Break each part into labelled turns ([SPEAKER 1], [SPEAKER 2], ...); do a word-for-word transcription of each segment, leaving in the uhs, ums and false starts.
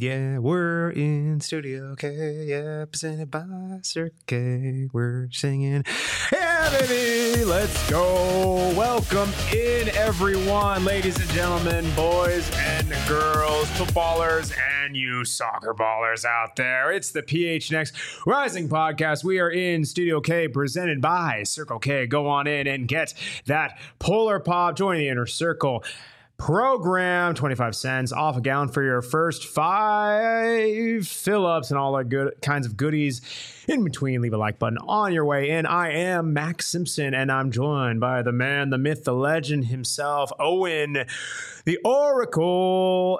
[SPEAKER 1] Yeah, we're in Studio K, yeah, presented by Circle K. We're singing, yeah, baby, let's go. Welcome in, everyone, ladies and gentlemen, boys and girls, footballers, and you soccer ballers out there. It's the P H N X Rising Podcast. We are in Studio K, presented by Circle K. Go on in and get that Polar Pop. Join the Inner Circle program, twenty-five cents off a gallon for your first five fill-ups and all that good kinds of goodies in between. Leave a like button on your way in. I am Max Simpson, and I'm joined by the man, the myth, the legend himself, Owen, the Oracle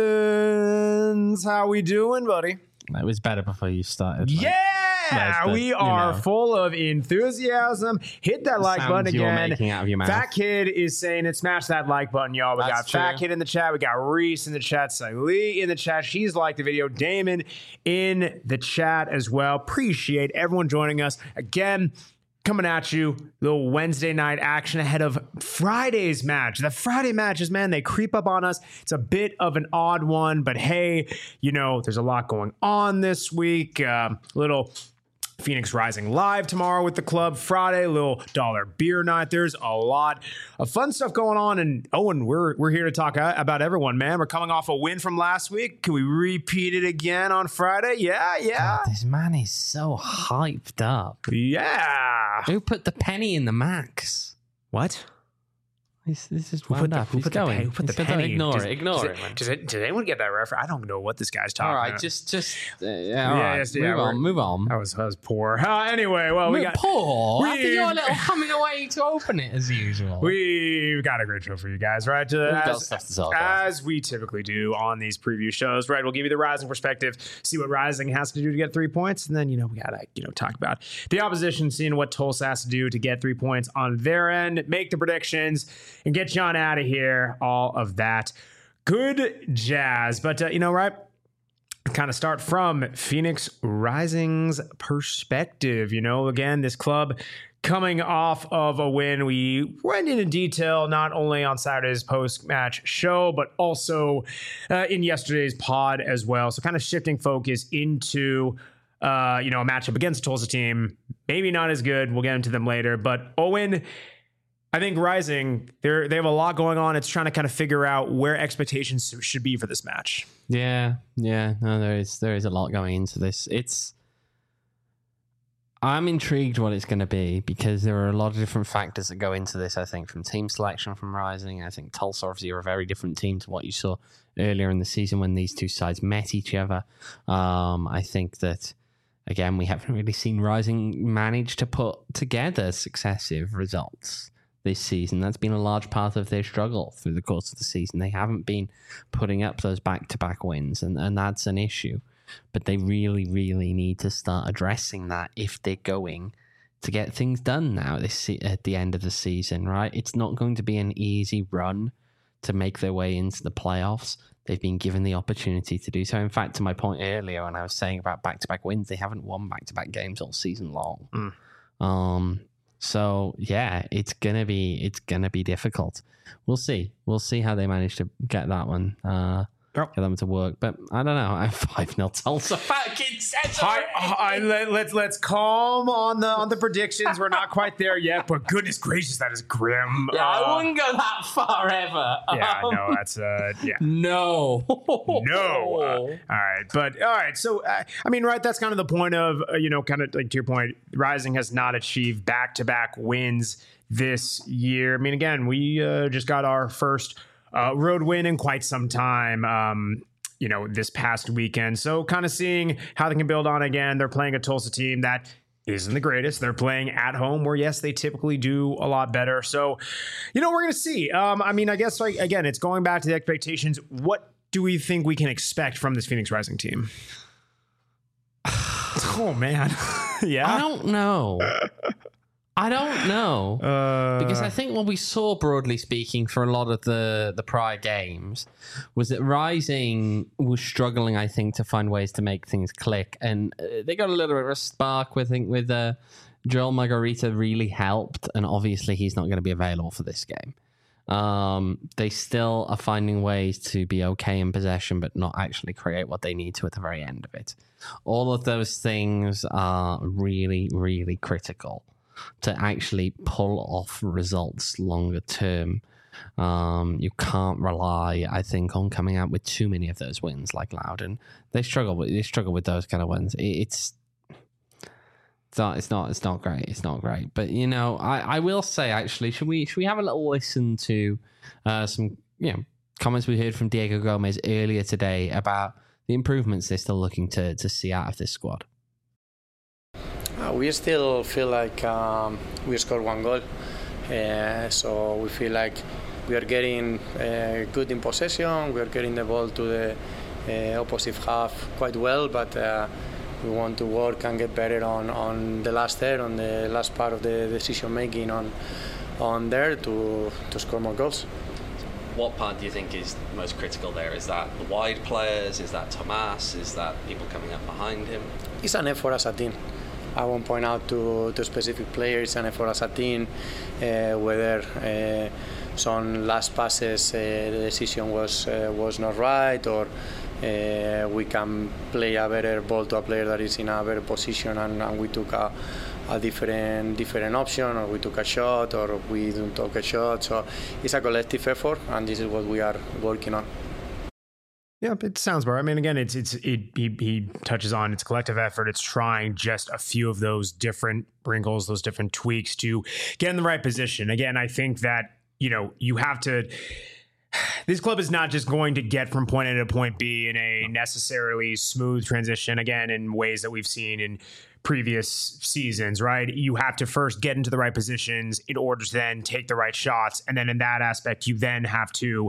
[SPEAKER 1] Evans. How we doing, buddy?
[SPEAKER 2] That was better before you started. Like,
[SPEAKER 1] yeah,
[SPEAKER 2] the,
[SPEAKER 1] we are
[SPEAKER 2] know.
[SPEAKER 1] full of enthusiasm. Hit that
[SPEAKER 2] The
[SPEAKER 1] like button
[SPEAKER 2] sounds you're
[SPEAKER 1] again.
[SPEAKER 2] making out of your mouth.
[SPEAKER 1] Fat Kid is saying it. Smash that like button, y'all. We
[SPEAKER 2] That's
[SPEAKER 1] got Fat
[SPEAKER 2] true.
[SPEAKER 1] Kid in the chat. We got Reese in the chat. Salih in the chat. She's liked the video. Damon in the chat as well. Appreciate everyone joining us again. Coming at you, little Wednesday night action ahead of Friday's match. The Friday matches, man, they creep up on us. It's a bit of an odd one, but hey, you know, there's a lot going on this week. Uh, little Phoenix Rising live tomorrow with the club. Friday, little dollar beer night. There's a lot of fun stuff going on. And Owen, we're we're here to talk about everyone, man. We're coming off a win from last week. Can we repeat it again on Friday? Yeah, yeah.
[SPEAKER 2] God, this man is so hyped up.
[SPEAKER 1] Yeah.
[SPEAKER 2] Who put the penny in the max?
[SPEAKER 1] What?
[SPEAKER 2] This, this is
[SPEAKER 1] Who put
[SPEAKER 2] wound
[SPEAKER 1] the,
[SPEAKER 2] up.
[SPEAKER 1] who
[SPEAKER 2] He's
[SPEAKER 1] put the,
[SPEAKER 2] going.
[SPEAKER 1] pe- who put the
[SPEAKER 2] He's
[SPEAKER 1] penny?
[SPEAKER 2] Ignore
[SPEAKER 1] Does-
[SPEAKER 2] it. Ignore
[SPEAKER 1] does
[SPEAKER 2] it, man.
[SPEAKER 1] Does, it, does anyone get that reference? I don't know what this guy's talking
[SPEAKER 2] All right,
[SPEAKER 1] about.
[SPEAKER 2] just, just, uh, yeah,
[SPEAKER 1] Yeah,
[SPEAKER 2] all right.
[SPEAKER 1] yes,
[SPEAKER 2] move
[SPEAKER 1] yeah,
[SPEAKER 2] on,
[SPEAKER 1] we're-
[SPEAKER 2] move on.
[SPEAKER 1] That was, that was poor. Uh, anyway, well, we
[SPEAKER 2] Move-
[SPEAKER 1] got
[SPEAKER 2] poor. After
[SPEAKER 1] we've-
[SPEAKER 2] your little coming away to open it as usual.
[SPEAKER 1] We've got a great show for you guys, right? Uh,
[SPEAKER 2] got
[SPEAKER 1] as,
[SPEAKER 2] stuff to talk about.
[SPEAKER 1] as we typically do on these preview shows, right? We'll give you the Rising perspective, see what Rising has to do to get three points, and then, you know, we gotta, you know, talk about the opposition, seeing what Tulsa has to do to get three points on their end, make the predictions, and get John out of here. All of that good jazz. But, uh, you know, right? Kind of start from Phoenix Rising's perspective. You know, again, this club coming off of a win. We went into detail not only on Saturday's post-match show, but also uh, in yesterday's pod as well. So kind of shifting focus into, uh, you know, a matchup against a Tulsa team. Maybe not as good. We'll get into them later. But Owen, I think Rising, they're, they have a lot going on. It's trying to kind of figure out where expectations should be for this match.
[SPEAKER 2] Yeah, yeah. No, there is there is a lot going into this. It's I'm intrigued what it's going to be because there are a lot of different factors that go into this. I think from team selection from Rising. I think Tulsa obviously are a very different team to what you saw earlier in the season when these two sides met each other. Um, I think that again we haven't really seen Rising manage to put together successive results this season. That's been a large part of their struggle through the course of the season. They haven't been putting up those back-to-back wins, and, and that's an issue. But they really, really need to start addressing that if they're going to get things done now this se- at the end of the season, right? It's not going to be an easy run to make their way into the playoffs. They've been given the opportunity to do so. In fact, to my point earlier when I was saying about back-to-back wins, they haven't won back-to-back games all season long. Mm. Um... So yeah, it's gonna be it's gonna be difficult. We'll see. We'll see how they manage to get that one, uh,
[SPEAKER 1] Yep.
[SPEAKER 2] get them to work. But I don't know. I'm five nil Tulsa. Fat Kid says
[SPEAKER 1] Hi, hi, let, let's let's calm on the on the predictions. We're not quite there yet, but goodness gracious, that is grim.
[SPEAKER 2] Yeah,
[SPEAKER 1] Uh,
[SPEAKER 2] I wouldn't go that far ever.
[SPEAKER 1] yeah,
[SPEAKER 2] Um,
[SPEAKER 1] no, that's uh, yeah.
[SPEAKER 2] No.
[SPEAKER 1] No. Uh, all right. But all right. So, uh, I mean, right. That's kind of the point of, uh, you know, kind of like to your point, Rising has not achieved back to back wins this year. I mean, again, we uh, just got our first uh, road win in quite some time. Um, you know, this past weekend. So kind of seeing how they can build on again. They're playing a Tulsa team that isn't the greatest. They're playing at home where, yes, they typically do a lot better. So, you know, we're going to see. Um, I mean, I guess, like, again, it's going back to the expectations. What do we think we can expect from this Phoenix Rising team? Oh, man. Yeah.
[SPEAKER 2] I don't know. I don't know.
[SPEAKER 1] Uh,
[SPEAKER 2] Because I think what we saw, broadly speaking, for a lot of the, the prior games was that Rising was struggling, I think, to find ways to make things click. And uh, they got a little bit of a spark, I think, with uh, Joel Margarita really helped. And obviously, he's not going to be available for this game. Um, they still are finding ways to be okay in possession, but not actually create what they need to at the very end of it. All of those things are really, really critical to actually pull off results longer term. Um, you can't rely, I think, on coming out with too many of those wins like Loudoun. They struggle with they struggle with those kind of wins. It, it's It's not, it's not, it's not great. It's not great. But, you know, I, I will say, actually, should we should we have a little listen to uh, some, you know, comments we heard from Diego Gomez earlier today about the improvements they're still looking to, to see out of this squad?
[SPEAKER 3] Uh, we still feel like um, we scored one goal. Uh, so we feel like we are getting uh, good in possession. We are getting the ball to the uh, opposite half quite well, but uh, we want to work and get better on, on the last third, on the last part of the decision making on on there to to score more goals.
[SPEAKER 4] What part do you think is most critical there? Is that the wide players? Is that Tomas? Is that people coming up behind him?
[SPEAKER 3] It's an effort as a team. I won't point out to, to specific players, an effort as a team, uh, whether uh, some last passes uh, the decision was uh, was not right, or Uh, we can play a better ball to a player that is in a better position, and, and we took a, a different different option, or we took a shot, or we didn't take a shot. So it's a collective effort, and this is what we are working on.
[SPEAKER 1] Yeah, it sounds better. I mean, again, it's it's it, he, he touches on it's collective effort. It's trying just a few of those different wrinkles, those different tweaks to get in the right position. Again, I think that, you know, you have to. This club is not just going to get from point A to point B in a necessarily smooth transition, again, in ways that we've seen in previous seasons, right? You have to first get into the right positions in order to then take the right shots. And then in that aspect, you then have to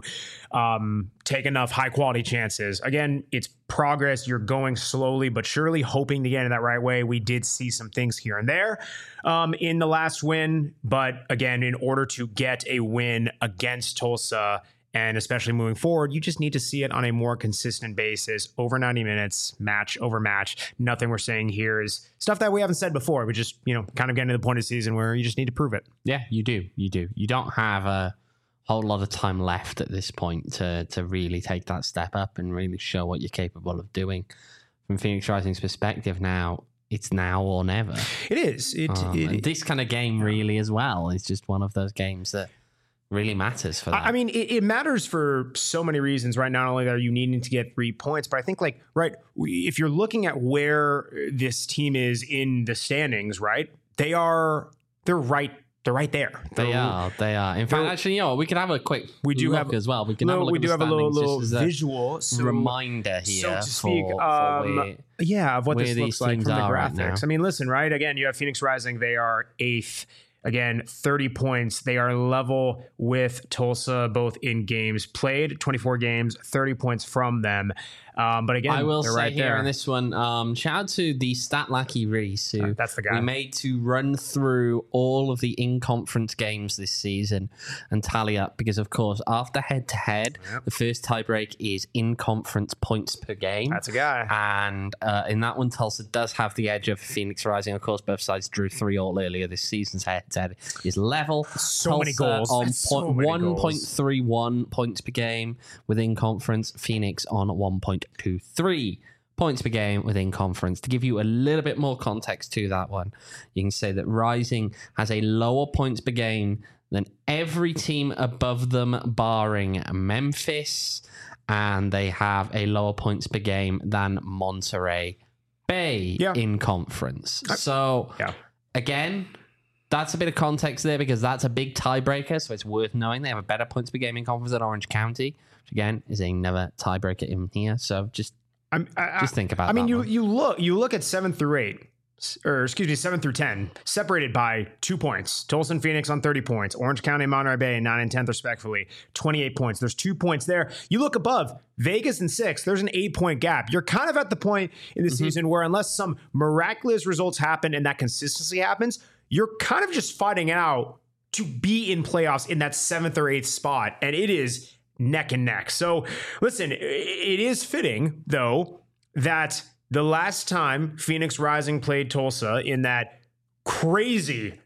[SPEAKER 1] um, take enough high quality chances. Again, it's progress. You're going slowly, but surely hoping to get in that right way. We did see some things here and there um, in the last win. But again, in order to get a win against Tulsa, and especially moving forward, you just need to see it on a more consistent basis over ninety minutes, match over match. Nothing we're saying here is stuff that we haven't said before. We just, you know, kind of getting to the point of the season where you just need to prove it.
[SPEAKER 2] Yeah, you do. You do. You don't have a whole lot of time left at this point to to really take that step up and really show what you're capable of doing. From Phoenix Rising's perspective now, it's now or never.
[SPEAKER 1] It is. It,
[SPEAKER 2] um,
[SPEAKER 1] it,
[SPEAKER 2] and this kind of game really as well is just one of those games that really matters for that.
[SPEAKER 1] I mean, it, it matters for so many reasons, right? Not only are you needing to get three points, but I think, like, right, if you're looking at where this team is in the standings, right, they are, they're right, they're right there. They're,
[SPEAKER 2] they are, they are. In fact, actually, you know, we can have a quick
[SPEAKER 1] we do
[SPEAKER 2] look
[SPEAKER 1] have,
[SPEAKER 2] as well. We can
[SPEAKER 1] little,
[SPEAKER 2] have a look
[SPEAKER 1] we
[SPEAKER 2] at
[SPEAKER 1] do
[SPEAKER 2] the
[SPEAKER 1] have a little, little
[SPEAKER 2] a
[SPEAKER 1] visual so,
[SPEAKER 2] reminder here,
[SPEAKER 1] so to speak,
[SPEAKER 2] for,
[SPEAKER 1] um,
[SPEAKER 2] for where,
[SPEAKER 1] yeah, of what this looks like from the graphics.
[SPEAKER 2] Right,
[SPEAKER 1] I mean, listen, right? Again, you have Phoenix Rising; they are eighth. Again, thirty points. They are level with Tulsa, both in games played, twenty-four games, thirty points from them. Um, but again,
[SPEAKER 2] I will
[SPEAKER 1] they're
[SPEAKER 2] say
[SPEAKER 1] right
[SPEAKER 2] here
[SPEAKER 1] there.
[SPEAKER 2] in this one, um, shout out to the stat lackey Reese, who
[SPEAKER 1] uh, that's the guy
[SPEAKER 2] we made to run through all of the in-conference games this season and tally up, because of course, after head-to-head,
[SPEAKER 1] yep.
[SPEAKER 2] the first tiebreak is in-conference points per game.
[SPEAKER 1] That's a guy.
[SPEAKER 2] And uh, in that one, Tulsa does have the edge of Phoenix Rising. Of course, both sides drew three all earlier this season's head-to-head is level.
[SPEAKER 1] So
[SPEAKER 2] Tulsa
[SPEAKER 1] many goals.
[SPEAKER 2] on
[SPEAKER 1] So
[SPEAKER 2] point,
[SPEAKER 1] many
[SPEAKER 2] one point
[SPEAKER 1] goals.
[SPEAKER 2] three one points per game within conference. Phoenix on one point two three points per game within conference. To give you a little bit more context to that one, you can say that Rising has a lower points per game than every team above them, barring Memphis, and they have a lower points per game than Monterey Bay
[SPEAKER 1] yeah.
[SPEAKER 2] in conference. So,
[SPEAKER 1] yeah.
[SPEAKER 2] again, that's a bit of context there, because that's a big tiebreaker, so it's worth knowing. They have a better points per game in conference than Orange County, which again is another tiebreaker in here. So just
[SPEAKER 1] I'm, I,
[SPEAKER 2] just think about.
[SPEAKER 1] I mean,
[SPEAKER 2] that
[SPEAKER 1] you
[SPEAKER 2] one.
[SPEAKER 1] you look you look at seven through eight, or excuse me, seven through ten, separated by two points. Tulsa and Phoenix on thirty points. Orange County and Monterey Bay nine and tenth respectively, twenty-eight points. There's two points there. You look above Vegas and six. There's an eight point gap. You're kind of at the point in the mm-hmm. season where, unless some miraculous results happen and that consistency happens, you're kind of just fighting out to be in playoffs in that seventh or eighth spot, and it is neck and neck. So listen, it is fitting, though, that the last time Phoenix Rising played Tulsa in that crazy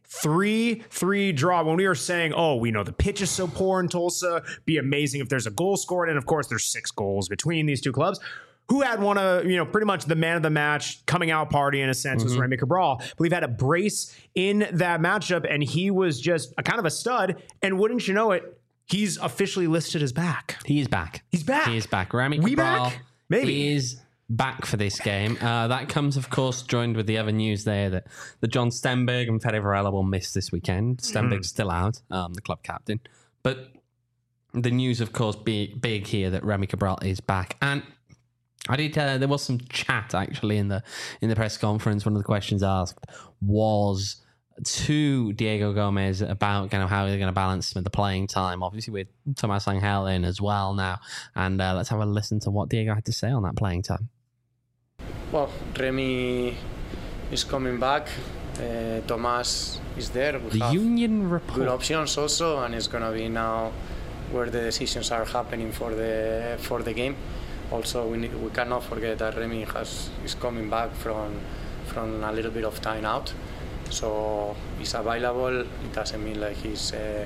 [SPEAKER 1] three three draw. When we were saying, oh, we know the pitch is so poor in Tulsa, be amazing if there's a goal scored. And of course, there's six goals between these two clubs. Who had one of, you know, pretty much the man of the match coming out party in a sense mm-hmm. was Remy Cabral. But we've had a brace in that matchup, and he was just a kind of a stud. And wouldn't you know it, he's officially listed as back.
[SPEAKER 2] He is back.
[SPEAKER 1] He's back.
[SPEAKER 2] He is back. Remy
[SPEAKER 1] we
[SPEAKER 2] Cabral
[SPEAKER 1] back? Maybe.
[SPEAKER 2] is back for this game. Uh, that comes, of course, joined with the other news there that, that John Stenberg and Fede Varela will miss this weekend. Stenberg's mm. still out, um, the club captain. But the news, of course, big, big here that Remy Cabral is back. And I did. Uh, there was some chat actually in the in the press conference. One of the questions asked was to Diego Gomez about kind of how they're going to balance with the playing time. Obviously, with Tomas Angel in as well now, and uh, let's have a listen to what Diego had to say on that playing time.
[SPEAKER 3] Well, Remy is coming back. Uh, Tomas is there. We
[SPEAKER 2] the
[SPEAKER 3] have
[SPEAKER 2] Union Report.
[SPEAKER 3] Good options also, and it's going to be now where the decisions are happening for the for the game. Also, we need, we cannot forget that Remy has is coming back from from a little bit of time out, so he's available. It doesn't mean like he's uh,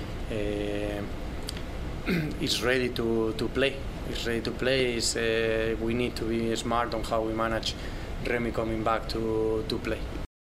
[SPEAKER 3] uh, he's ready to, to play. He's ready to play. Is uh, we need to be smart on how we manage Remy coming back to to play.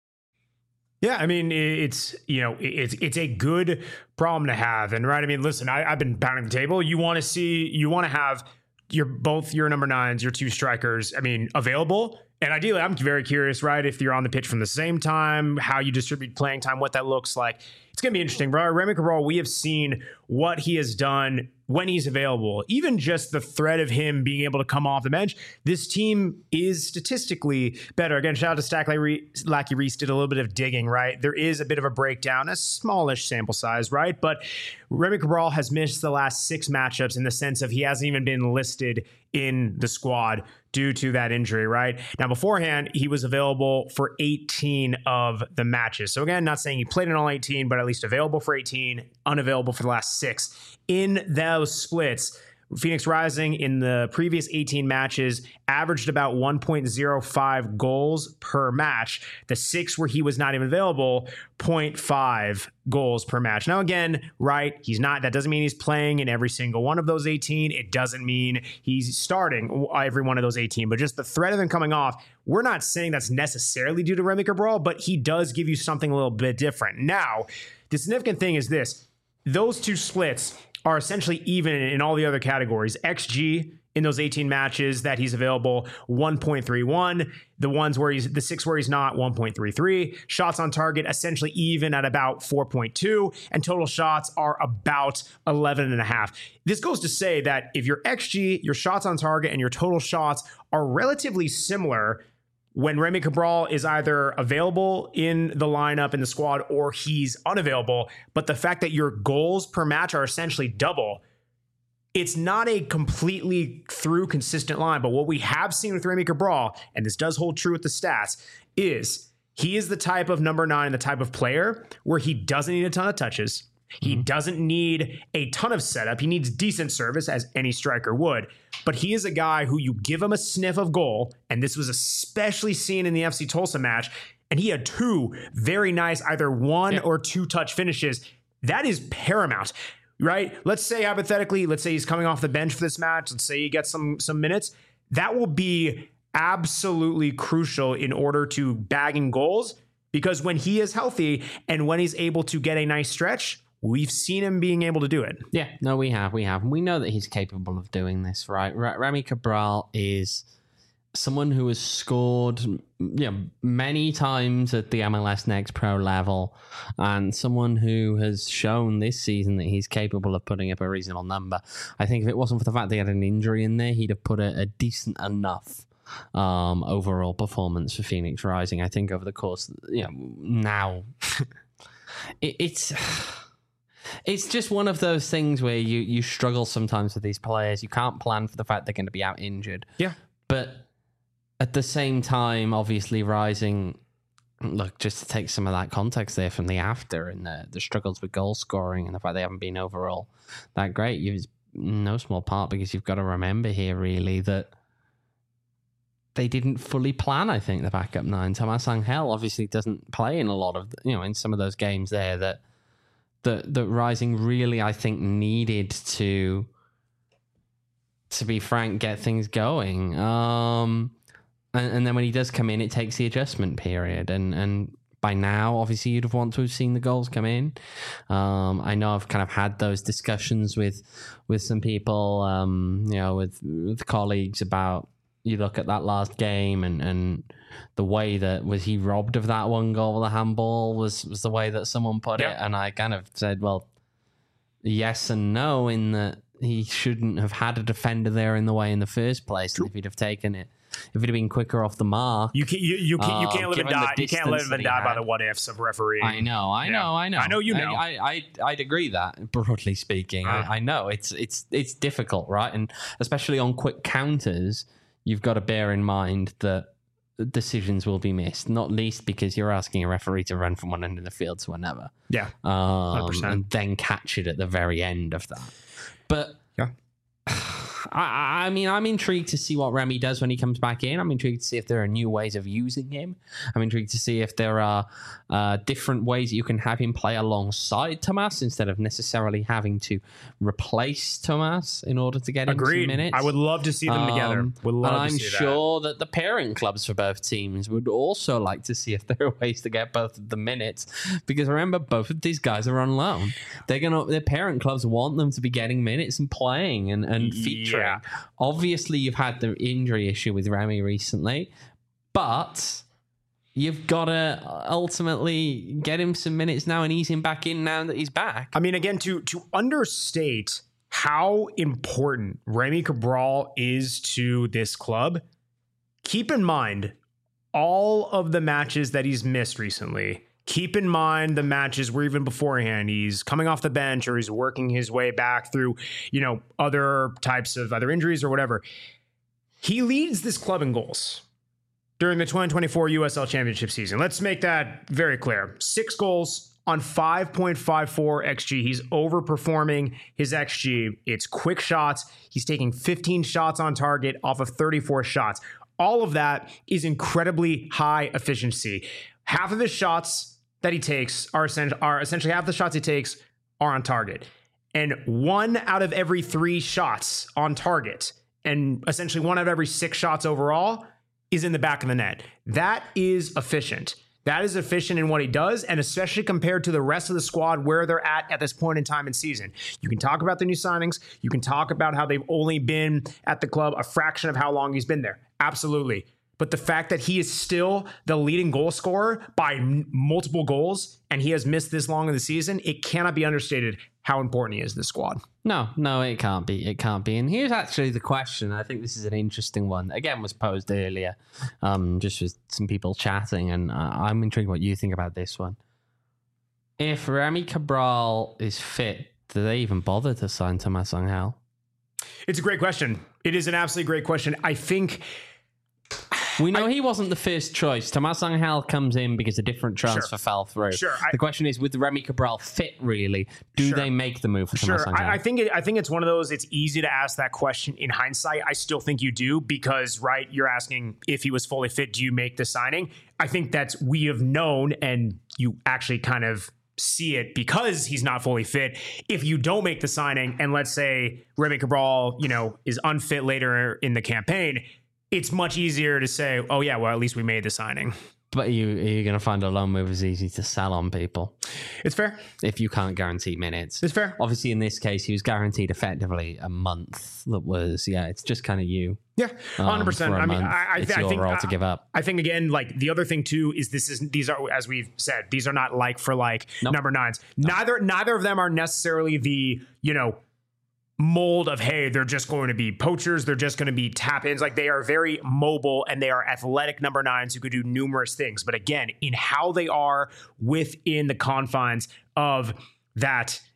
[SPEAKER 1] Yeah, I mean, it's, you know, it's it's a good problem to have. And right, I mean, listen, I, I've been pounding the table. You want to see, you want to have your both your number nines, your two strikers, I mean, available. And ideally, I'm very curious, right, if you're on the pitch from the same time, how you distribute playing time, what that looks like. It's going to be interesting. Bro, Remy Cabral, we have seen what he has done when he's available. Even just the threat of him being able to come off the bench, this team is statistically better. Again, shout out to Stack Lackey Reese, did a little bit of digging, right? There is a bit of a breakdown, a smallish sample size, right? But Remy Cabral has missed the last six matchups in the sense of he hasn't even been listed in the squad due to that injury, right? Now, beforehand, he was available for eighteen of the matches. So again, not saying he played in all eighteen, but at least available for eighteen, unavailable for the last six. In those splits, Phoenix Rising in the previous eighteen matches averaged about one point oh five goals per match. The six where he was not even available, zero point five goals per match. Now, again, right, he's not, that doesn't mean he's playing in every single one of those eighteen. It doesn't mean he's starting every one of those eighteen, but just the threat of him coming off, we're not saying that's necessarily due to Remy Cabral, but he does give you something a little bit different. Now, the significant thing is this. Those two splits are essentially even in all the other categories. X G in those eighteen matches that he's available, one point three one. The ones where he's, the six where he's not, one point three three. Shots on target, essentially even at about four point two. And total shots are about eleven and a half. This goes to say that if your X G, your shots on target, and your total shots are relatively similar when Remy Cabral is either available in the lineup in the squad or he's unavailable, but the fact that your goals per match are essentially double, it's not a completely through consistent line. But what we have seen with Remy Cabral, and this does hold true with the stats, is he is the type of number nine, the type of player where he doesn't need a ton of touches. He mm-hmm. doesn't need a ton of setup. He needs decent service, as any striker would. But he is a guy who you give him a sniff of goal, and this was especially seen in the F C Tulsa match, and he had two very nice either one yeah. or two touch finishes. That is paramount, right? Let's say hypothetically, let's say he's coming off the bench for this match. Let's say he gets some some minutes. That will be absolutely crucial in order to bagging goals, because when he is healthy and when he's able to get a nice stretch, we've seen him being able to do it.
[SPEAKER 2] Yeah, no, we have. We have. We know that he's capable of doing this, right? R- Remy Cabral is someone who has scored you know, many times at the M L S Next Pro level, and someone who has shown this season that he's capable of putting up a reasonable number. I think if it wasn't for the fact that he had an injury in there, he'd have put a, a decent enough um, overall performance for Phoenix Rising. I think over the course, you know, now it, it's... It's just one of those things where you, you struggle sometimes with these players. You can't plan for the fact they're going to be out injured.
[SPEAKER 1] Yeah.
[SPEAKER 2] But at the same time, obviously Rising, look, just to take some of that context there from the after and the, the struggles with goal scoring and the fact they haven't been overall that great, it's no small part because you've got to remember here really that they didn't fully plan, I think, the backup nine. Thomas Angel obviously doesn't play in a lot of, you know, in some of those games there that that that Rising really, I think, needed to, to be frank, get things going. Um, and, and then when he does come in, it takes the adjustment period. And, and by now, obviously, you'd have wanted to have seen the goals come in. Um, I know I've kind of had those discussions with with some people, um, you know, with, with colleagues about, you look at that last game and, and the way that was he robbed of that one goal with a handball was, was the way that someone put
[SPEAKER 1] yeah.
[SPEAKER 2] it. And I kind of said, well, yes and no, in that he shouldn't have had a defender there in the way in the first place. And if he'd have taken it, if he'd have been quicker off the mark.
[SPEAKER 1] You can't, you, you can't, you can't uh, live and die. You can't live and die by the what ifs of refereeing.
[SPEAKER 2] I know, I yeah. know, I know.
[SPEAKER 1] I know you know.
[SPEAKER 2] I, I, I'd agree that, broadly speaking. Uh. I, I know it's it's it's difficult, right? And especially on quick counters, you've got to bear in mind that decisions will be missed, not least because you're asking a referee to run from one end of the field to another.
[SPEAKER 1] Yeah.
[SPEAKER 2] Um, and then catch it at the very end of that. But
[SPEAKER 1] yeah.
[SPEAKER 2] I, I mean, I'm intrigued to see what Remy does when he comes back in. I'm intrigued to see if there are new ways of using him. I'm intrigued to see if there are uh, different ways that you can have him play alongside Thomas instead of necessarily having to replace Thomas in order to get him
[SPEAKER 1] Agreed.
[SPEAKER 2] some minutes.
[SPEAKER 1] I would love to see them um, together. Would love
[SPEAKER 2] and I'm
[SPEAKER 1] to see
[SPEAKER 2] sure
[SPEAKER 1] that.
[SPEAKER 2] that the parent clubs for both teams would also like to see if there are ways to get both of the minutes. Because remember, both of these guys are on loan. They're gonna. Their parent clubs want them to be getting minutes and playing and, and featuring. Yeah. Obviously, you've had the injury issue with Remy recently, but you've got to ultimately get him some minutes now and ease him back in now that he's back.
[SPEAKER 1] I mean, again, to to understate how important Remy Cabral is to this club, keep in mind all of the matches that he's missed recently. Keep in mind the matches where even beforehand he's coming off the bench or he's working his way back through, you know, other types of other injuries or whatever. He leads this club in goals during the twenty twenty-four U S L Championship season. Let's make that very clear. Six goals on five point five four X G. He's overperforming his X G. It's quick shots. He's taking fifteen shots on target off of thirty-four shots. All of that is incredibly high efficiency. Half of his shots that he takes are, are essentially half the shots he takes are on target. And one out of every three shots on target, and essentially one out of every six shots overall, is in the back of the net. That is efficient. That is efficient in what he does, and especially compared to the rest of the squad where they're at at this point in time in season. You can talk about the new signings. You can talk about how they've only been at the club a fraction of how long he's been there. Absolutely. But the fact that he is still the leading goal scorer by m- multiple goals and he has missed this long in the season, it cannot be understated how important he is to the squad.
[SPEAKER 2] No, no, it can't be. It can't be. And here's actually the question. I think this is an interesting one. Again, was posed earlier, um, just with some people chatting, and uh, I'm intrigued what you think about this one. If Remy Cabral is fit, do they even bother to sign Thomas Angel?
[SPEAKER 1] It's a great question. It is an absolutely great question. I think...
[SPEAKER 2] We know I, he wasn't the first choice. Thomas Angel comes in because a different transfer
[SPEAKER 1] sure,
[SPEAKER 2] fell through.
[SPEAKER 1] Sure. I,
[SPEAKER 2] the question is, with Remy Cabral fit, really, do sure, they make the move for
[SPEAKER 1] sure.
[SPEAKER 2] Thomas Angel?
[SPEAKER 1] I, I think it, I think it's one of those. It's easy to ask that question in hindsight. I still think you do because, right, you're asking if he was fully fit, do you make the signing? I think that's we have known, and you actually kind of see it because he's not fully fit. If you don't make the signing, and let's say Remy Cabral, you know, is unfit later in the campaign, it's much easier to say, oh, yeah, well, at least we made the signing.
[SPEAKER 2] But you, are you going to find a loan move is easy to sell on people?
[SPEAKER 1] It's fair.
[SPEAKER 2] If you can't guarantee minutes.
[SPEAKER 1] It's fair.
[SPEAKER 2] Obviously, in this case, he was guaranteed effectively a month. That was, yeah, it's just kind of you.
[SPEAKER 1] Yeah, one hundred percent. Um, I mean, I, I,
[SPEAKER 2] it's
[SPEAKER 1] I
[SPEAKER 2] your
[SPEAKER 1] think,
[SPEAKER 2] role to give up.
[SPEAKER 1] I think, again, like the other thing, too, is this is these are, as we've said, these are not like for like nope. number nines. Nope. Neither, neither of them are necessarily the, you know, mold of, hey, they're just going to be poachers, they're just going to be tap-ins. Like, they are very mobile and they are athletic number nines who could do numerous things. But again, in how they are within the confines of that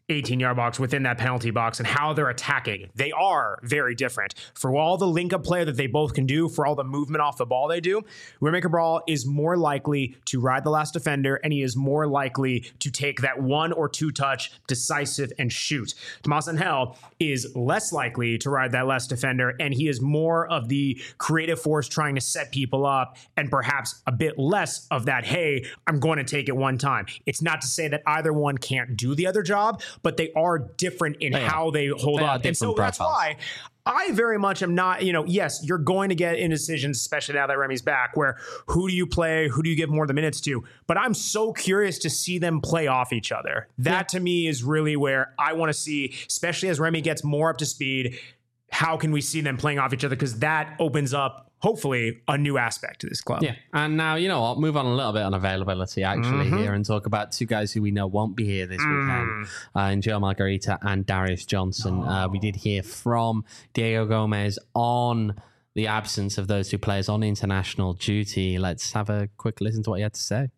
[SPEAKER 1] eighteen-yard box within that penalty box and how they're attacking. They are very different. For all the link-up play that they both can do, for all the movement off the ball they do, Remy Cabral is more likely to ride the last defender, and he is more likely to take that one or two touch, decisive, and shoot. Tomas Angel is less likely to ride that last defender, and he is more of the creative force trying to set people up, and perhaps a bit less of that, hey, I'm going to take it one time. It's not to say that either one can't do the other job, but they are different in
[SPEAKER 2] they
[SPEAKER 1] how they hold
[SPEAKER 2] they
[SPEAKER 1] up. And so that's why I very much am not, you know, yes, you're going to get indecisions, especially now that Remy's back, where who do you play? Who do you give more of the minutes to? But I'm so curious to see them play off each other. That yeah. to me is really where I want to see, especially as Remy gets more up to speed, how can we see them playing off each other? Because that opens up, hopefully, a new aspect to this club.
[SPEAKER 2] Yeah. And now, you know, I'll move on a little bit on availability actually mm-hmm. here and talk about two guys who we know won't be here this mm. weekend, uh, and Joe Margarita and Darius Johnson. Oh. Uh, we did hear from Diego Gomez on the absence of those two players on international duty. Let's have a quick listen to what he had to say.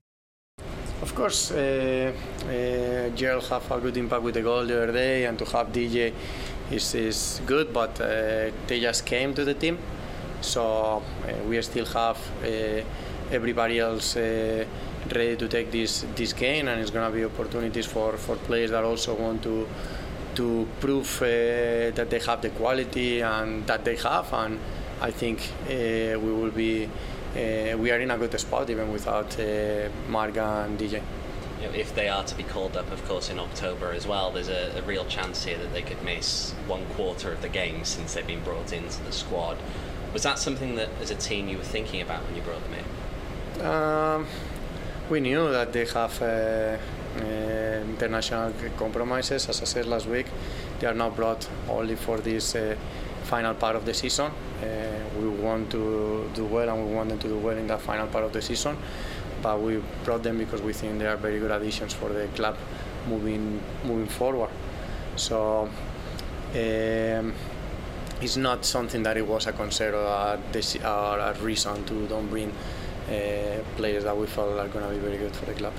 [SPEAKER 3] Of course, uh, uh, Gerald have a good impact with the goal the other day, and to have D J is, is good, but uh, they just came to the team. So uh, we still have uh, everybody else uh, ready to take this this game, and it's going to be opportunities for, for players that also want to to prove uh, that they have the quality and that they have. And I think uh, we will be uh, we are in a good spot even without uh, Marga and D J.
[SPEAKER 4] You know, if they are to be called up, of course, in October as well, there's a, a real chance here that they could miss one quarter of the games since they've been brought into the squad. Was that something that, as a team, you were thinking about when you brought them in?
[SPEAKER 3] Um, we knew that they have uh, uh, international compromises. As I said last week, they are not brought only for this uh, final part of the season. Uh, we want to do well, and we want them to do well in that final part of the season. But we brought them because we think they are very good additions for the club moving moving forward. So. Um, It's not something that it was a concern or a, or a reason to don't bring uh, players that we felt are going to be very good for the club.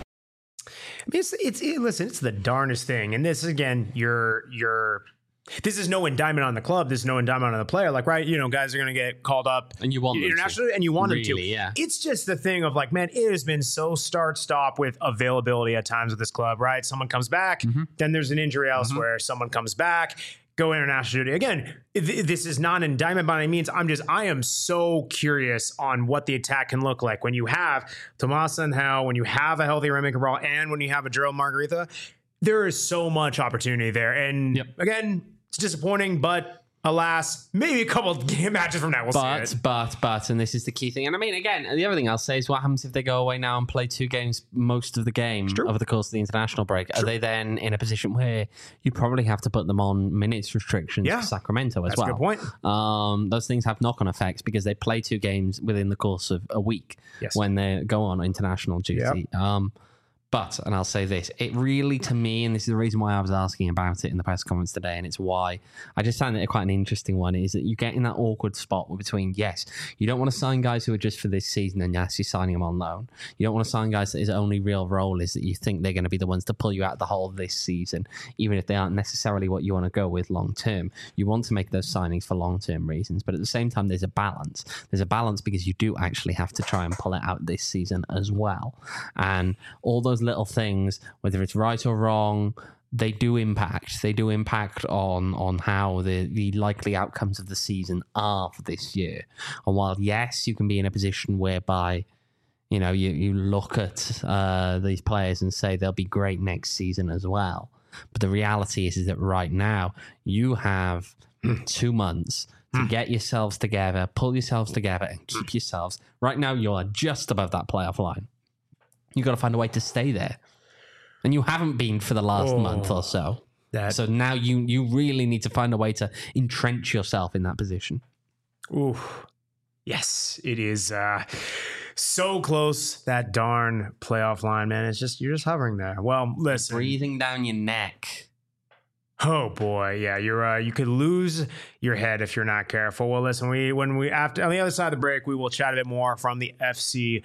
[SPEAKER 1] I mean, it's, it's it, listen, it's the darnest thing, and this again, you're you're. This is no indictment on the club. This is no indictment on the player. Like, right, you know, guys are going to get called up
[SPEAKER 2] and you want
[SPEAKER 1] internationally, and you want
[SPEAKER 2] really,
[SPEAKER 1] them to.
[SPEAKER 2] Yeah.
[SPEAKER 1] It's just the thing of like, man, it has been so start-stop with availability at times with this club, right? Someone comes back, mm-hmm. then there's an injury elsewhere. Mm-hmm. Someone comes back, go international duty. Again, th- this is not an indictment by any means. I'm just, I am so curious on what the attack can look like when you have Tomas Angel, when you have a healthy Remy Cabral, and when you have a Gerald Margarita. There is so much opportunity there. And yep. again, it's disappointing, but alas, maybe a couple of game matches from now we'll
[SPEAKER 2] but,
[SPEAKER 1] see it.
[SPEAKER 2] But, but, and this is the key thing. And I mean, again, the other thing I'll say is what happens if they go away now and play two games most of the game over the course of the international break? True. Are they then in a position where you probably have to put them on minutes restrictions yeah. for Sacramento as
[SPEAKER 1] That's
[SPEAKER 2] well?
[SPEAKER 1] That's a good point.
[SPEAKER 2] Um, those things have knock-on effects because they play two games within the course of a week yes. when they go on international duty. Yep. Um, But, and I'll say this, it really, to me, and this is the reason why I was asking about it in the press conference today, and it's why I just found it quite an interesting one, is that you get in that awkward spot between, yes, you don't want to sign guys who are just for this season, and yes, you're signing them on loan. You don't want to sign guys that his only real role is that you think they're going to be the ones to pull you out of the hole this season, even if they aren't necessarily what you want to go with long term. You want to make those signings for long term reasons, but at the same time, there's a balance. There's a balance because you do actually have to try and pull it out this season as well. And all those little things, whether it's right or wrong, they do impact. They do impact on on how the, the likely outcomes of the season are for this year. And while, yes, you can be in a position whereby, you know, you, you look at uh, these players and say they'll be great next season as well. But the reality is, is that right now you have two months to get yourselves together, pull yourselves together and keep yourselves. Right now, you're just above that playoff line. You've got to find a way to stay there. And you haven't been for the last oh, month or so. That. So now you you really need to find a way to entrench yourself in that position.
[SPEAKER 1] Ooh. Yes, it is uh, so close, that darn playoff line, man. It's just, you're just hovering there. Well, listen.
[SPEAKER 2] Breathing down your neck.
[SPEAKER 1] Oh boy, yeah, you're uh, you could lose your head if you're not careful. Well, listen, we when we after on the other side of the break, we will chat a bit more from the F C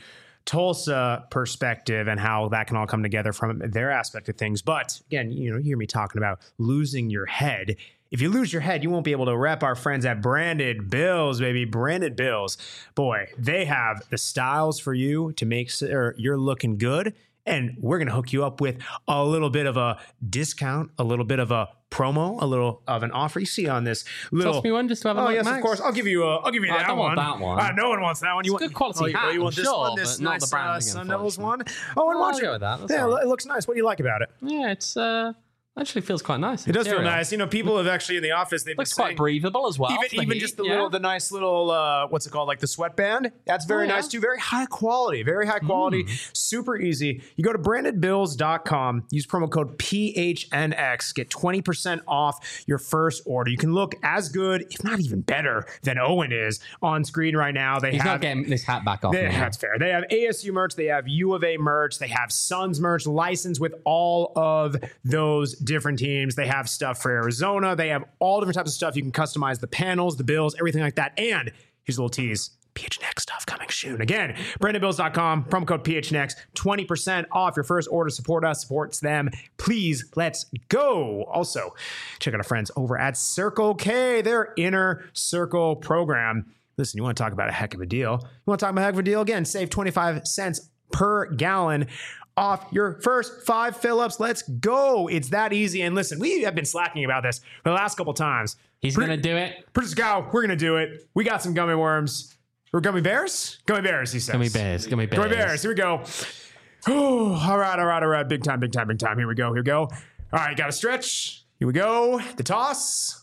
[SPEAKER 1] Tulsa perspective and how that can all come together from their aspect of things. But again, you know, you hear me talking about losing your head. If you lose your head, you won't be able to rep our friends at Branded Bills, baby. Branded Bills. Boy, they have the styles for you to make sure you're looking good. And we're going to hook you up with a little bit of a discount, a little bit of a promo, a little of an offer. You see on this little.
[SPEAKER 2] Toss me one just to have a
[SPEAKER 1] oh,
[SPEAKER 2] look,
[SPEAKER 1] yes,
[SPEAKER 2] Max.
[SPEAKER 1] of course. I'll give you. A, I'll give you
[SPEAKER 2] Oh,
[SPEAKER 1] that
[SPEAKER 2] I don't
[SPEAKER 1] one.
[SPEAKER 2] want that one.
[SPEAKER 1] Uh, no one wants that one. You
[SPEAKER 2] It's
[SPEAKER 1] want
[SPEAKER 2] good quality
[SPEAKER 1] oh, you,
[SPEAKER 2] hat,
[SPEAKER 1] oh, you want
[SPEAKER 2] I'm
[SPEAKER 1] this
[SPEAKER 2] sure,
[SPEAKER 1] one? This
[SPEAKER 2] but not
[SPEAKER 1] nice
[SPEAKER 2] the branding,
[SPEAKER 1] uh, Sun Devils one.
[SPEAKER 2] unfortunately.
[SPEAKER 1] Oh, and
[SPEAKER 2] I'll
[SPEAKER 1] watch
[SPEAKER 2] go
[SPEAKER 1] it.
[SPEAKER 2] with that. That's
[SPEAKER 1] Yeah,
[SPEAKER 2] all right.
[SPEAKER 1] it looks nice. What do you like about it?
[SPEAKER 2] Yeah, it's uh, actually feels quite nice.
[SPEAKER 1] It does feel
[SPEAKER 2] Material.
[SPEAKER 1] nice. You know, people have actually in the office. They've
[SPEAKER 2] Looks
[SPEAKER 1] been
[SPEAKER 2] quite
[SPEAKER 1] saying,
[SPEAKER 2] breathable as well.
[SPEAKER 1] Even,
[SPEAKER 2] for the
[SPEAKER 1] even
[SPEAKER 2] heat,
[SPEAKER 1] just the
[SPEAKER 2] yeah.
[SPEAKER 1] little, the nice little, uh, what's it called, like the sweatband. That's very
[SPEAKER 2] Oh, yeah.
[SPEAKER 1] nice too. Very high quality. Very high quality. Super easy. You go to branded bills dot com. Use promo code P H N X. Get twenty percent off your first order. You can look as good, if not even better, than Owen is on screen right now. They
[SPEAKER 2] He's
[SPEAKER 1] have.
[SPEAKER 2] not getting this hat back off.
[SPEAKER 1] They,
[SPEAKER 2] me now.
[SPEAKER 1] that's fair. They have A S U merch. They have U of A merch. They have Suns merch licensed with all of those different teams. They have stuff for Arizona. They have all different types of stuff. You can customize the panels, the bills, everything like that. And here's a little tease. P H N X stuff coming soon. Again, branded bills dot com, promo code P H N X, twenty percent off your first order. Support us, supports them. Please, let's go. Also, check out our friends over at Circle K, their Inner Circle program. Listen, you want to talk about a heck of a deal. You want to talk about a heck of a deal? Again, save twenty-five cents per gallon off your first five fill-ups. Let's go. It's that easy. And listen, we have been slacking about this for the last couple times.
[SPEAKER 2] He's
[SPEAKER 1] Pre-
[SPEAKER 2] going to do it.
[SPEAKER 1] Producer Scow, we're going to do it. We got some gummy worms. Or gummy bears? Gummy bears, he says.
[SPEAKER 2] Gummy bears. Gummy bears.
[SPEAKER 1] Gummy bears. Here we go. Oh, all right, all right, all right. Big time, big time, big time. Here we go, here we go. All right, got to stretch. Here we go. The toss.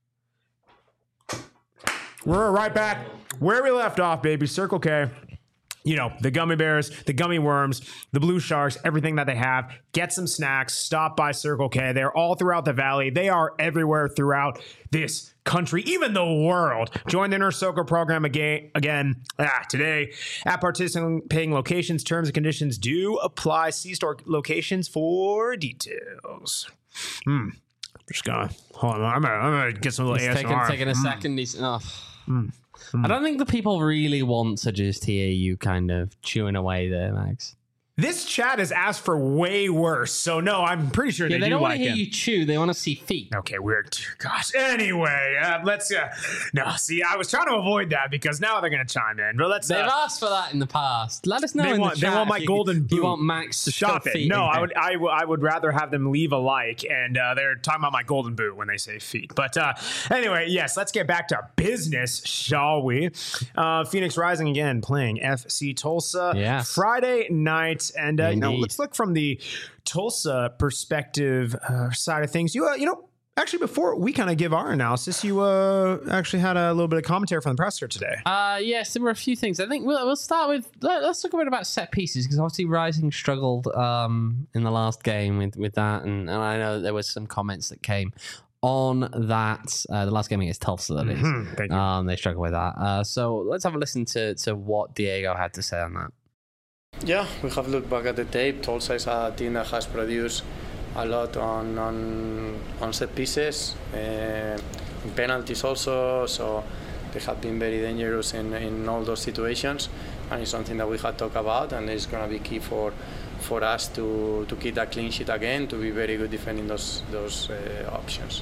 [SPEAKER 1] We're right back where we left off, baby. Circle K. You know, the gummy bears, the gummy worms, the blue sharks, everything that they have. Get some snacks. Stop by Circle K. They're all throughout the valley. They are everywhere throughout this country, even the world. Join the Inner Circle program again, again ah, today at participating locations. Terms and conditions do apply. See store locations for details. Hmm. Just gonna hold on. I'm gonna, I'm gonna get some little
[SPEAKER 2] He's
[SPEAKER 1] A S M
[SPEAKER 2] taking,
[SPEAKER 1] R.
[SPEAKER 2] taking a
[SPEAKER 1] Mm.
[SPEAKER 2] second. He's, oh.
[SPEAKER 1] Mm.
[SPEAKER 2] I don't think the people really want to just hear you kind of chewing away there, Max.
[SPEAKER 1] This chat has asked for way worse, so no, I'm pretty sure
[SPEAKER 2] Yeah,
[SPEAKER 1] they,
[SPEAKER 2] they
[SPEAKER 1] do
[SPEAKER 2] don't want
[SPEAKER 1] like
[SPEAKER 2] to hear
[SPEAKER 1] him.
[SPEAKER 2] you chew. They want to see feet.
[SPEAKER 1] Okay, weird. Gosh. Anyway, uh, let's. Uh, no, see, I was trying to avoid that because now they're going to chime in. But let's.
[SPEAKER 2] They've
[SPEAKER 1] Uh,
[SPEAKER 2] asked for that in the past. Let us know
[SPEAKER 1] they
[SPEAKER 2] in
[SPEAKER 1] want.
[SPEAKER 2] the
[SPEAKER 1] They
[SPEAKER 2] chat
[SPEAKER 1] want my
[SPEAKER 2] if you-
[SPEAKER 1] golden boot.
[SPEAKER 2] You want Max to
[SPEAKER 1] Stop
[SPEAKER 2] shove
[SPEAKER 1] it.
[SPEAKER 2] feet
[SPEAKER 1] No,
[SPEAKER 2] in
[SPEAKER 1] I
[SPEAKER 2] there.
[SPEAKER 1] would. I, w- I would rather have them leave a like, and uh, they're talking about my golden boot when they say feet. But uh, anyway, yes, let's get back to business, shall we? Uh, Phoenix Rising again playing F C Tulsa.
[SPEAKER 2] Yes.
[SPEAKER 1] Friday night, and uh, you know,
[SPEAKER 2] Indeed.
[SPEAKER 1] let's look from the Tulsa perspective uh, side of things. You, uh, you know. Actually, before we kind of give our analysis, you uh, actually had a little bit of commentary from the presser today.
[SPEAKER 2] Uh, yes, there were a few things. I think we'll, we'll start with, let, let's talk a bit about set pieces, because obviously Rising struggled um, in the last game with, with that, and, and I know there was some comments that came on that. Uh, the last game against Tulsa, that is.
[SPEAKER 1] Mhm, thank you.
[SPEAKER 2] Um, they struggled with that. Uh, so let's have a listen to, to what Diego had to say on that.
[SPEAKER 3] Yeah, we have looked back at the tape. Tulsa is a team that has produced a lot on on, on set pieces, uh, in penalties also. So they have been very dangerous in, in all those situations, and it's something that we had talked about, and it's going to be key for for us to to keep that clean sheet again, to be very good defending those those uh, options.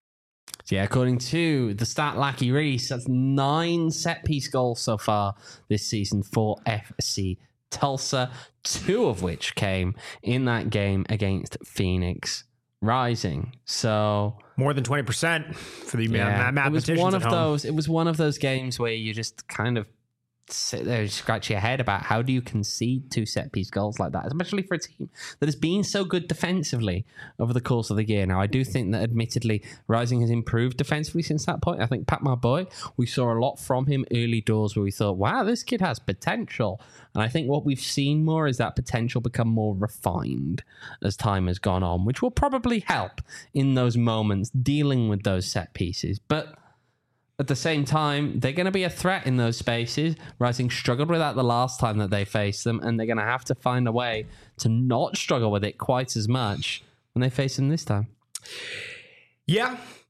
[SPEAKER 2] Yeah, according to the stat Lackey Reese, that's nine set piece goals so far this season for F C Tulsa, two of which came in that game against Phoenix Rising. So
[SPEAKER 1] More than twenty percent for the
[SPEAKER 2] yeah,
[SPEAKER 1] ma-
[SPEAKER 2] it was
[SPEAKER 1] mathematicians
[SPEAKER 2] one
[SPEAKER 1] at
[SPEAKER 2] of
[SPEAKER 1] home.
[SPEAKER 2] those. It was one of those games where you just kind of sit there and scratch your head about how do you concede two set piece goals like that, especially for a team that has been so good defensively over the course of the year. Now, I do think that admittedly Rising has improved defensively since that point. I think Pat, my boy, we saw a lot from him early doors where we thought, wow, this kid has potential. And I think what we've seen more is that potential become more refined as time has gone on, which will probably help in those moments dealing with those set pieces. But at the same time, they're going to be a threat in those spaces. Rising struggled with that the last time that they faced them, and they're going to have to find a way to not struggle with it quite as much when they face them this time.
[SPEAKER 1] Yeah.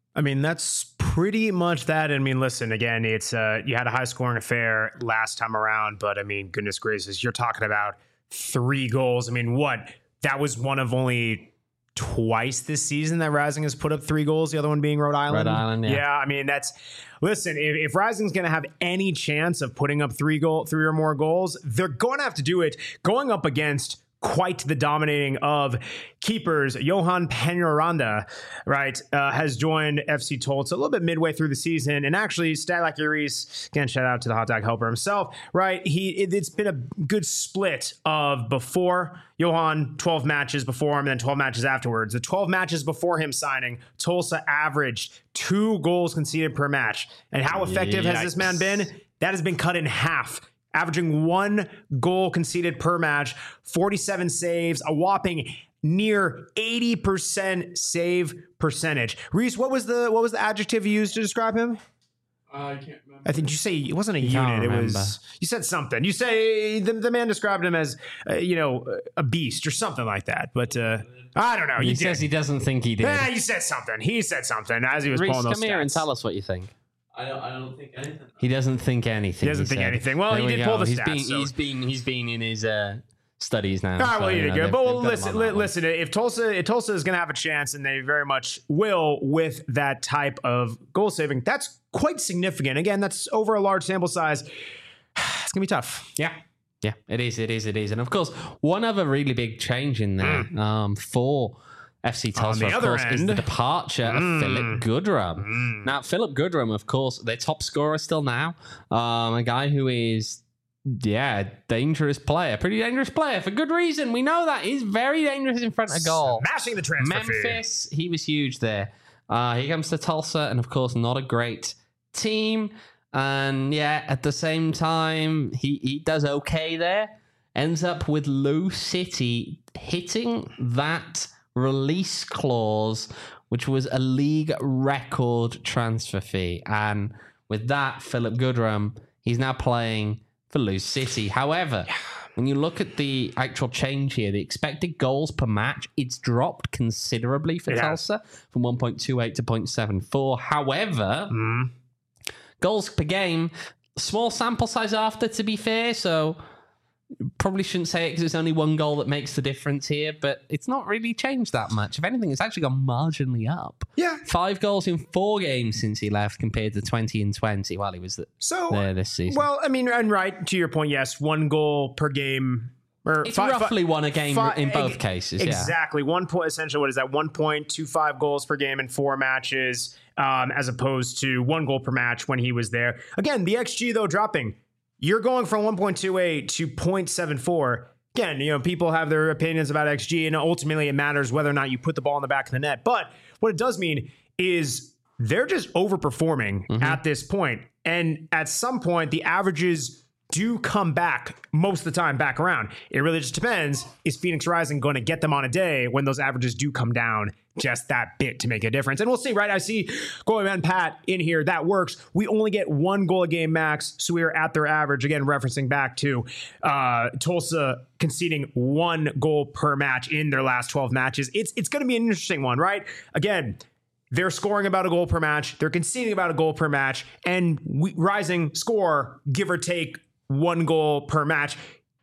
[SPEAKER 1] I mean, that's pretty much that. I mean, listen, again, it's uh, you had a high scoring affair last time around, but I mean, goodness gracious, you're talking about three goals. I mean, what? That was one of only twice this season that Rising has put up three goals, the other one being Rhode Island.
[SPEAKER 2] Rhode Island, yeah.
[SPEAKER 1] Yeah, I mean, that's, listen, if, if Rising's going to have any chance of putting up three goal, three or more goals, they're going to have to do it going up against quite the dominating of keepers. Johan Peñaranda, right, uh, has joined F C Tulsa a little bit midway thugh the season. And actually, Stalac Uris, again, shout out to the hot dog helper himself, right? He it, It's been a good split of before Johan, twelve matches before him, and then twelve matches afterwards. The twelve matches before him signing, Tulsa averaged two goals conceded per match. And how effective Yikes. has this man been? That has been cut in half, averaging one goal conceded per match, forty-seven saves, a whopping near eighty percent save percentage. Reese, what was the what was the adjective you used to describe him?
[SPEAKER 5] Uh, I can't remember.
[SPEAKER 1] I think you say it wasn't a
[SPEAKER 2] You can't
[SPEAKER 1] unit. It
[SPEAKER 2] remember.
[SPEAKER 1] was you said something. You say the, the man described him as uh, you know a beast or something like that. But uh, I don't know.
[SPEAKER 2] He
[SPEAKER 1] You
[SPEAKER 2] says
[SPEAKER 1] did.
[SPEAKER 2] he doesn't think he did.
[SPEAKER 1] Yeah, you said something. He said something as he was
[SPEAKER 2] Reece,
[SPEAKER 1] pulling those
[SPEAKER 2] come here and
[SPEAKER 1] stats.
[SPEAKER 2] tell us what you think.
[SPEAKER 5] I don't. I don't think anything.
[SPEAKER 2] He doesn't think anything.
[SPEAKER 1] He doesn't think
[SPEAKER 2] said.
[SPEAKER 1] anything. Well,
[SPEAKER 2] There
[SPEAKER 1] he
[SPEAKER 2] we
[SPEAKER 1] did
[SPEAKER 2] go.
[SPEAKER 1] pull the
[SPEAKER 2] He's
[SPEAKER 1] stats,
[SPEAKER 2] Been,
[SPEAKER 1] so-
[SPEAKER 2] He's been he's been in his uh, studies now.
[SPEAKER 1] All right,
[SPEAKER 2] so,
[SPEAKER 1] well, you
[SPEAKER 2] you
[SPEAKER 1] did
[SPEAKER 2] know,
[SPEAKER 1] good.
[SPEAKER 2] they've-
[SPEAKER 1] But
[SPEAKER 2] they've
[SPEAKER 1] well,
[SPEAKER 2] got him
[SPEAKER 1] listen,
[SPEAKER 2] on
[SPEAKER 1] li-
[SPEAKER 2] that one.
[SPEAKER 1] listen. If Tulsa, if Tulsa is going to have a chance, and they very much will with that type of goal saving, that's quite significant. Again, that's over a large sample size. It's gonna be tough.
[SPEAKER 2] Yeah. Yeah, it is, it is, it is. And of course, one other really big change in there um, for F C Tulsa,
[SPEAKER 1] the
[SPEAKER 2] of
[SPEAKER 1] other
[SPEAKER 2] course, is
[SPEAKER 1] end.
[SPEAKER 2] the departure of
[SPEAKER 1] Mm.
[SPEAKER 2] Philip Goodrum.
[SPEAKER 1] Mm.
[SPEAKER 2] Now, Philip Goodrum, of course, their top scorer still now. Um, a guy who is, yeah, dangerous player. Pretty dangerous player for good reason. We know that. He's very dangerous in front of goal.
[SPEAKER 1] Smashing the transfer fee.
[SPEAKER 2] Memphis, he was huge there. Uh, he comes to Tulsa, and of course, not a great team. And yeah, at the same time, he, he does okay there. Ends up with Lou City hitting that release clause, which was a league record transfer fee. And with that, Philip Goodrum, he's now playing for Lou City. However, when you look at the actual change here, the expected goals per match, it's dropped considerably for
[SPEAKER 1] It has.
[SPEAKER 2] Tulsa from one point two eight to zero point seven four. However,
[SPEAKER 1] Mm.
[SPEAKER 2] goals per game, small sample size after, to be fair, so probably shouldn't say it because it's only one goal that makes the difference here, but it's not really changed that much. If anything, it's actually gone marginally up.
[SPEAKER 1] Yeah.
[SPEAKER 2] Five goals in four games since he left compared to twenty and twenty while he was th-
[SPEAKER 1] So
[SPEAKER 2] there this season.
[SPEAKER 1] well, I mean, and right to your point, yes, one goal per game. Or
[SPEAKER 2] It's
[SPEAKER 1] fi- fi-
[SPEAKER 2] roughly one a game
[SPEAKER 1] fi-
[SPEAKER 2] in both
[SPEAKER 1] ex-
[SPEAKER 2] cases, yeah.
[SPEAKER 1] Exactly. One point, essentially, what is that? one point two five goals per game in four matches, um, as opposed to one goal per match when he was there. Again, the X G, though, dropping. You're going from one point two eight to zero point seven four. Again, you know, people have their opinions about X G, and ultimately it matters whether or not you put the ball in the back of the net. But what it does mean is they're just overperforming
[SPEAKER 2] Mm-hmm.
[SPEAKER 1] at this point. And at some point, the averages do come back most of the time back around. It really just depends. Is Phoenix Rising going to get them on a day when those averages do come down just that bit to make a difference? And we'll see, right? I see Goalie Man Pat in here. That works. We only get one goal a game max, so we are at their average. Again, referencing back to uh, Tulsa conceding one goal per match in their last twelve matches. It's it's going to be an interesting one, right? Again, they're scoring about a goal per match. They're conceding about a goal per match. And we, Rising score, give or take, one goal per match.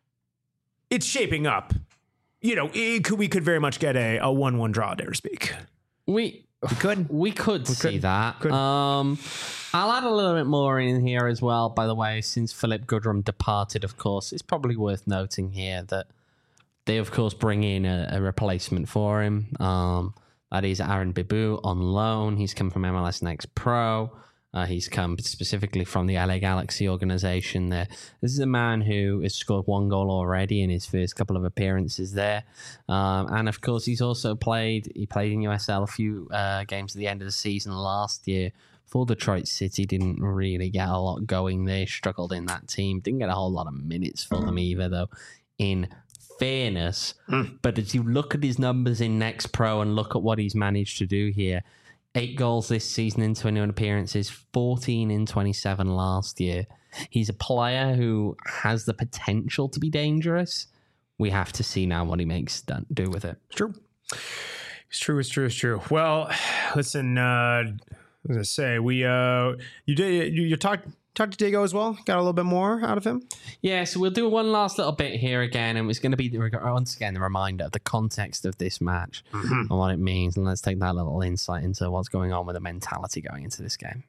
[SPEAKER 1] It's shaping up. You know, it could, we could very much get a, a one one draw, dare to speak.
[SPEAKER 2] We
[SPEAKER 1] We could.
[SPEAKER 2] we could see
[SPEAKER 1] could.
[SPEAKER 2] that.
[SPEAKER 1] Could.
[SPEAKER 2] Um, I'll add a little bit more in here as well, by the way, since Philip Goodrum departed, of course. It's probably worth noting here that they, of course, bring in a, a replacement for him. Um, that is Aaron Bibu on loan. He's come from M L S Next Pro. Uh, he's come specifically from the L A Galaxy organization there. This is a man who has scored one goal already in his first couple of appearances there. Um, and of course, he's also played, he played in U S L a few uh, games at the end of the season last year for Detroit City. Didn't really get a lot going there, struggled in that team. Didn't get a whole lot of minutes for them either, though, in fairness.
[SPEAKER 1] Mm.
[SPEAKER 2] But as you look at his numbers in Next Pro and look at what he's managed to do here, eight goals this season in twenty-one appearances, fourteen in twenty-seven last year. He's a player who has the potential to be dangerous. We have to see now what he makes done, do with it.
[SPEAKER 1] It's true. It's true. It's true. It's true. Well, listen. Uh, I was gonna say we. Uh, you did. You, you talked. Talked to Diego as well. Got a little bit more out of him.
[SPEAKER 2] Yeah, so we'll do one last little bit here again, and it's going to be the, once again the reminder of the context of this match mm-hmm. and what it means, and let's take that little insight into what's going on with the mentality going into this game.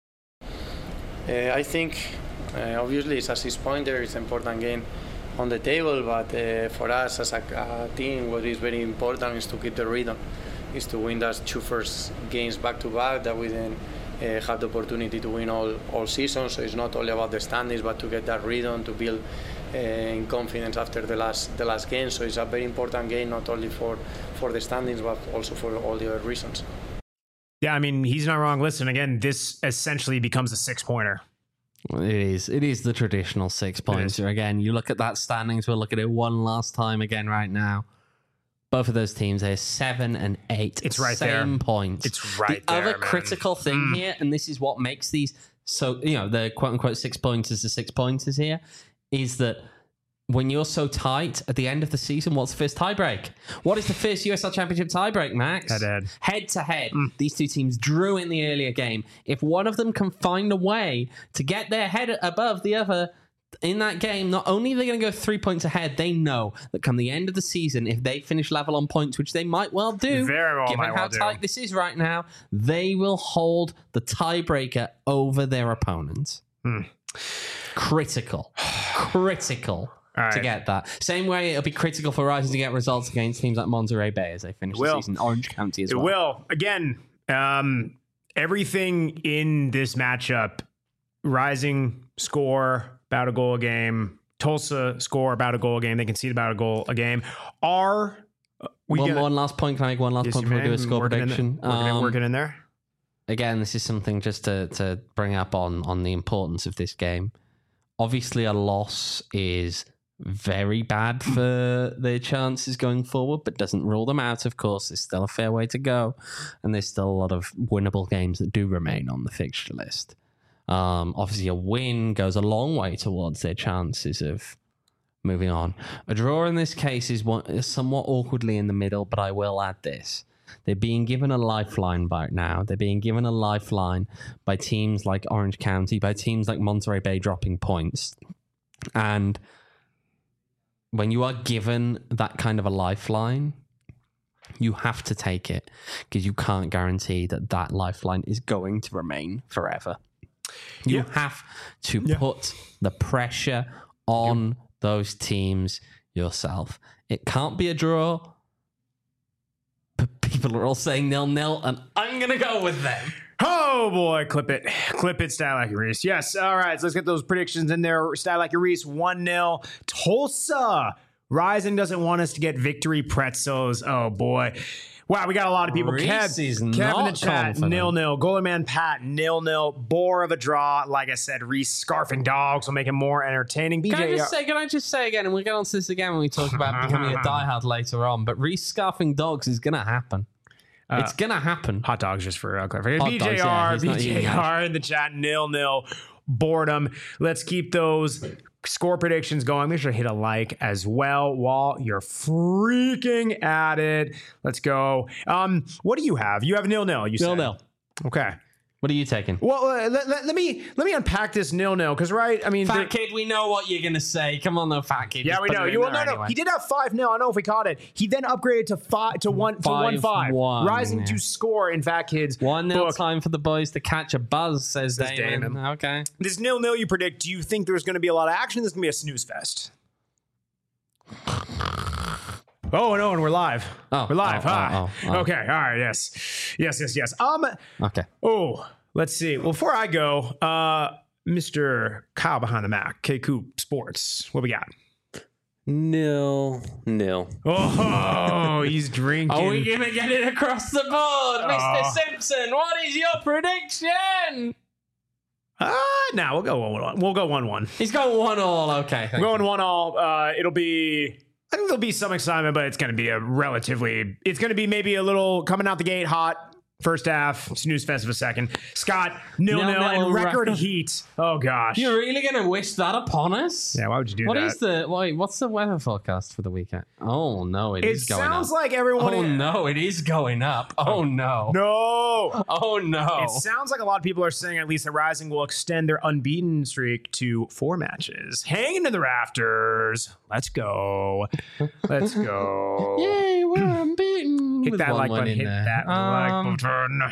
[SPEAKER 3] Uh, I think uh, obviously it's a six-pointer. It's an important game on the table, but uh, for us as a, a team, what is very important is to keep the rhythm, is to win those two first games back to back that we then. Uh, have the opportunity to win all, all season, so it's not only about the standings, but to get that rhythm, to build uh, in confidence after the last the last game. So it's a very important game, not only for, for the standings, but also for all the other reasons.
[SPEAKER 1] Yeah, I mean, he's not wrong. Listen, again, this essentially becomes a six-pointer.
[SPEAKER 2] It is. It is the traditional six-pointer. Again, you look at that standings, we'll look at it one last time again right now. Both of those teams are seven and eight.
[SPEAKER 1] It's right
[SPEAKER 2] same
[SPEAKER 1] there.
[SPEAKER 2] Points.
[SPEAKER 1] It's right
[SPEAKER 2] the
[SPEAKER 1] there.
[SPEAKER 2] The other
[SPEAKER 1] man.
[SPEAKER 2] critical thing
[SPEAKER 1] mm.
[SPEAKER 2] here, and this is what makes these so, you know, the quote unquote six pointers to six pointers here, is that when you're so tight at the end of the season, what's the first tiebreak? What is the first U S L Championship tiebreak, Max?
[SPEAKER 1] Head to head.
[SPEAKER 2] Head to head.
[SPEAKER 1] Mm.
[SPEAKER 2] These two teams drew in the earlier game. If one of them can find a way to get their head above the other in that game, not only are they going to go three points ahead, they know that come the end of the season, if they finish level on points, which they might well do,
[SPEAKER 1] Very well
[SPEAKER 2] given
[SPEAKER 1] might
[SPEAKER 2] how
[SPEAKER 1] well
[SPEAKER 2] tight
[SPEAKER 1] do.
[SPEAKER 2] this is right now, they will hold the tiebreaker over their opponent.
[SPEAKER 1] Hmm.
[SPEAKER 2] Critical. Critical
[SPEAKER 1] right.
[SPEAKER 2] to get that. Same way it'll be critical for Rising to get results against teams like Monterey Bay as they finish the season. Orange County as
[SPEAKER 1] it
[SPEAKER 2] well.
[SPEAKER 1] It will. Again, um, everything in this matchup, Rising score about a goal a game, Tulsa score about a goal a game, they concede about a goal a game. Are we
[SPEAKER 2] one,
[SPEAKER 1] gonna,
[SPEAKER 2] one last point, can I make one last
[SPEAKER 1] yes,
[SPEAKER 2] point before we do a score
[SPEAKER 1] working
[SPEAKER 2] prediction?
[SPEAKER 1] In the, working,
[SPEAKER 2] um,
[SPEAKER 1] in, working in there.
[SPEAKER 2] Again, this is something just to, to bring up on, on the importance of this game. Obviously, a loss is very bad for their chances going forward, but doesn't rule them out, of course. There's still a fair way to go, and there's still a lot of winnable games that do remain on the fixture list. Um, obviously, a win goes a long way towards their chances of moving on. A draw in this case is, one, is somewhat awkwardly in the middle, but I will add this. They're being given a lifeline right now. They're being given a lifeline by teams like Orange County, by teams like Monterey Bay dropping points. And when you are given that kind of a lifeline, you have to take it because you can't guarantee that that lifeline is going to remain forever. You
[SPEAKER 1] yeah.
[SPEAKER 2] have to
[SPEAKER 1] yeah.
[SPEAKER 2] put the pressure on yeah. those teams yourself. It can't be a draw, but people are all saying nil-nil, and I'm going to go with them.
[SPEAKER 1] Oh boy, clip it. Clip it, Style Like Reese. Yes, all right, so let's get those predictions in there. Style Like Reese, one nil. Tulsa. Rising doesn't want us to get victory pretzels. Oh boy. Wow, we got a lot of people.
[SPEAKER 2] Reese
[SPEAKER 1] Kev,
[SPEAKER 2] is
[SPEAKER 1] Kev
[SPEAKER 2] not
[SPEAKER 1] in the chat,
[SPEAKER 2] confident.
[SPEAKER 1] nil-nil. Goalie Man Pat, nil-nil. Bore of a draw. Like I said, Reese scarfing dogs will make it more entertaining. B J,
[SPEAKER 2] Can I just say, can I just say again, and we'll get onto this again when we talk about becoming a diehard later on, but Reese scarfing dogs is going to happen. Uh, it's going to happen.
[SPEAKER 1] Hot dogs, just for uh, clarification.
[SPEAKER 2] Hot
[SPEAKER 1] B J R,
[SPEAKER 2] dogs, yeah, he's not
[SPEAKER 1] B
[SPEAKER 2] eating
[SPEAKER 1] J
[SPEAKER 2] that.
[SPEAKER 1] R in the chat, nil-nil. Boredom. Let's keep those score predictions going. Make sure to hit a like as well while you're freaking at it. Let's go. Um, what do you have? You have nil-nil. You said
[SPEAKER 2] Nil-nil.
[SPEAKER 1] Okay.
[SPEAKER 2] What are you taking?
[SPEAKER 1] Well, uh, let, let, let me let me unpack this nil-nil because right. I mean,
[SPEAKER 2] Fat
[SPEAKER 1] there-
[SPEAKER 2] kid, we know what you're gonna say. Come on, though, fat kid.
[SPEAKER 1] yeah,
[SPEAKER 2] Just
[SPEAKER 1] we
[SPEAKER 2] put
[SPEAKER 1] know.
[SPEAKER 2] it in
[SPEAKER 1] You well,
[SPEAKER 2] there
[SPEAKER 1] no, no.
[SPEAKER 2] anyway.
[SPEAKER 1] He did have five nil. I don't know if he caught it. He then upgraded to five to one to one
[SPEAKER 2] Five,
[SPEAKER 1] five,
[SPEAKER 2] one,
[SPEAKER 1] rising
[SPEAKER 2] yeah.
[SPEAKER 1] to score in Fat Kids.
[SPEAKER 2] One nil
[SPEAKER 1] book.
[SPEAKER 2] time for the boys to catch a buzz, says,
[SPEAKER 1] Says
[SPEAKER 2] Damon.
[SPEAKER 1] Damon.
[SPEAKER 2] Okay.
[SPEAKER 1] This nil-nil you predict. Do you think there's going to be a lot of action? This is going to be a snooze fest. Oh no, and we're live.
[SPEAKER 2] Oh,
[SPEAKER 1] we're live.
[SPEAKER 2] oh,
[SPEAKER 1] huh?
[SPEAKER 2] oh, oh, oh.
[SPEAKER 1] Okay. All right. Yes. Yes. Yes. Yes. Um.
[SPEAKER 2] Okay.
[SPEAKER 1] Oh, let's see. Well, before I go, uh, Mister Kyle behind the Mac, K Coop Sports. What we got?
[SPEAKER 6] Nil, nil.
[SPEAKER 1] Oh, he's drinking.
[SPEAKER 2] Are we gonna get it across the board,
[SPEAKER 1] Oh.
[SPEAKER 2] Mister Simpson? What is your prediction?
[SPEAKER 1] Ah, uh, no, we'll go one one. We'll go one one.
[SPEAKER 2] He's going one all. Okay.
[SPEAKER 1] We're going one all. Uh, it'll be. I think there'll be some excitement, but it's going to be a relatively. It's going to be maybe a little coming out the gate hot. First half, snooze fest of a second. Scott, nil nil,
[SPEAKER 2] Nil-nil
[SPEAKER 1] and record
[SPEAKER 2] record.
[SPEAKER 1] heat. Oh gosh.
[SPEAKER 2] You're really going to wish that upon us?
[SPEAKER 1] Yeah, why would you do
[SPEAKER 2] What
[SPEAKER 1] that?
[SPEAKER 2] is the wait, what's the weather forecast for the weekend? Oh no, it,
[SPEAKER 1] It
[SPEAKER 2] is going
[SPEAKER 1] sounds
[SPEAKER 2] up.
[SPEAKER 1] like everyone.
[SPEAKER 2] Oh no, it is going up. Oh no.
[SPEAKER 1] No.
[SPEAKER 2] Oh no.
[SPEAKER 1] It sounds like a lot of people are saying at least the Rising will extend their unbeaten streak to four matches. Hanging to the rafters. Let's go. Let's go.
[SPEAKER 2] Yay, we're unbeaten.
[SPEAKER 1] Hit
[SPEAKER 2] With
[SPEAKER 1] that
[SPEAKER 2] one
[SPEAKER 1] like
[SPEAKER 2] win
[SPEAKER 1] button.
[SPEAKER 2] in
[SPEAKER 1] Hit
[SPEAKER 2] there.
[SPEAKER 1] that
[SPEAKER 2] Um,
[SPEAKER 1] like button.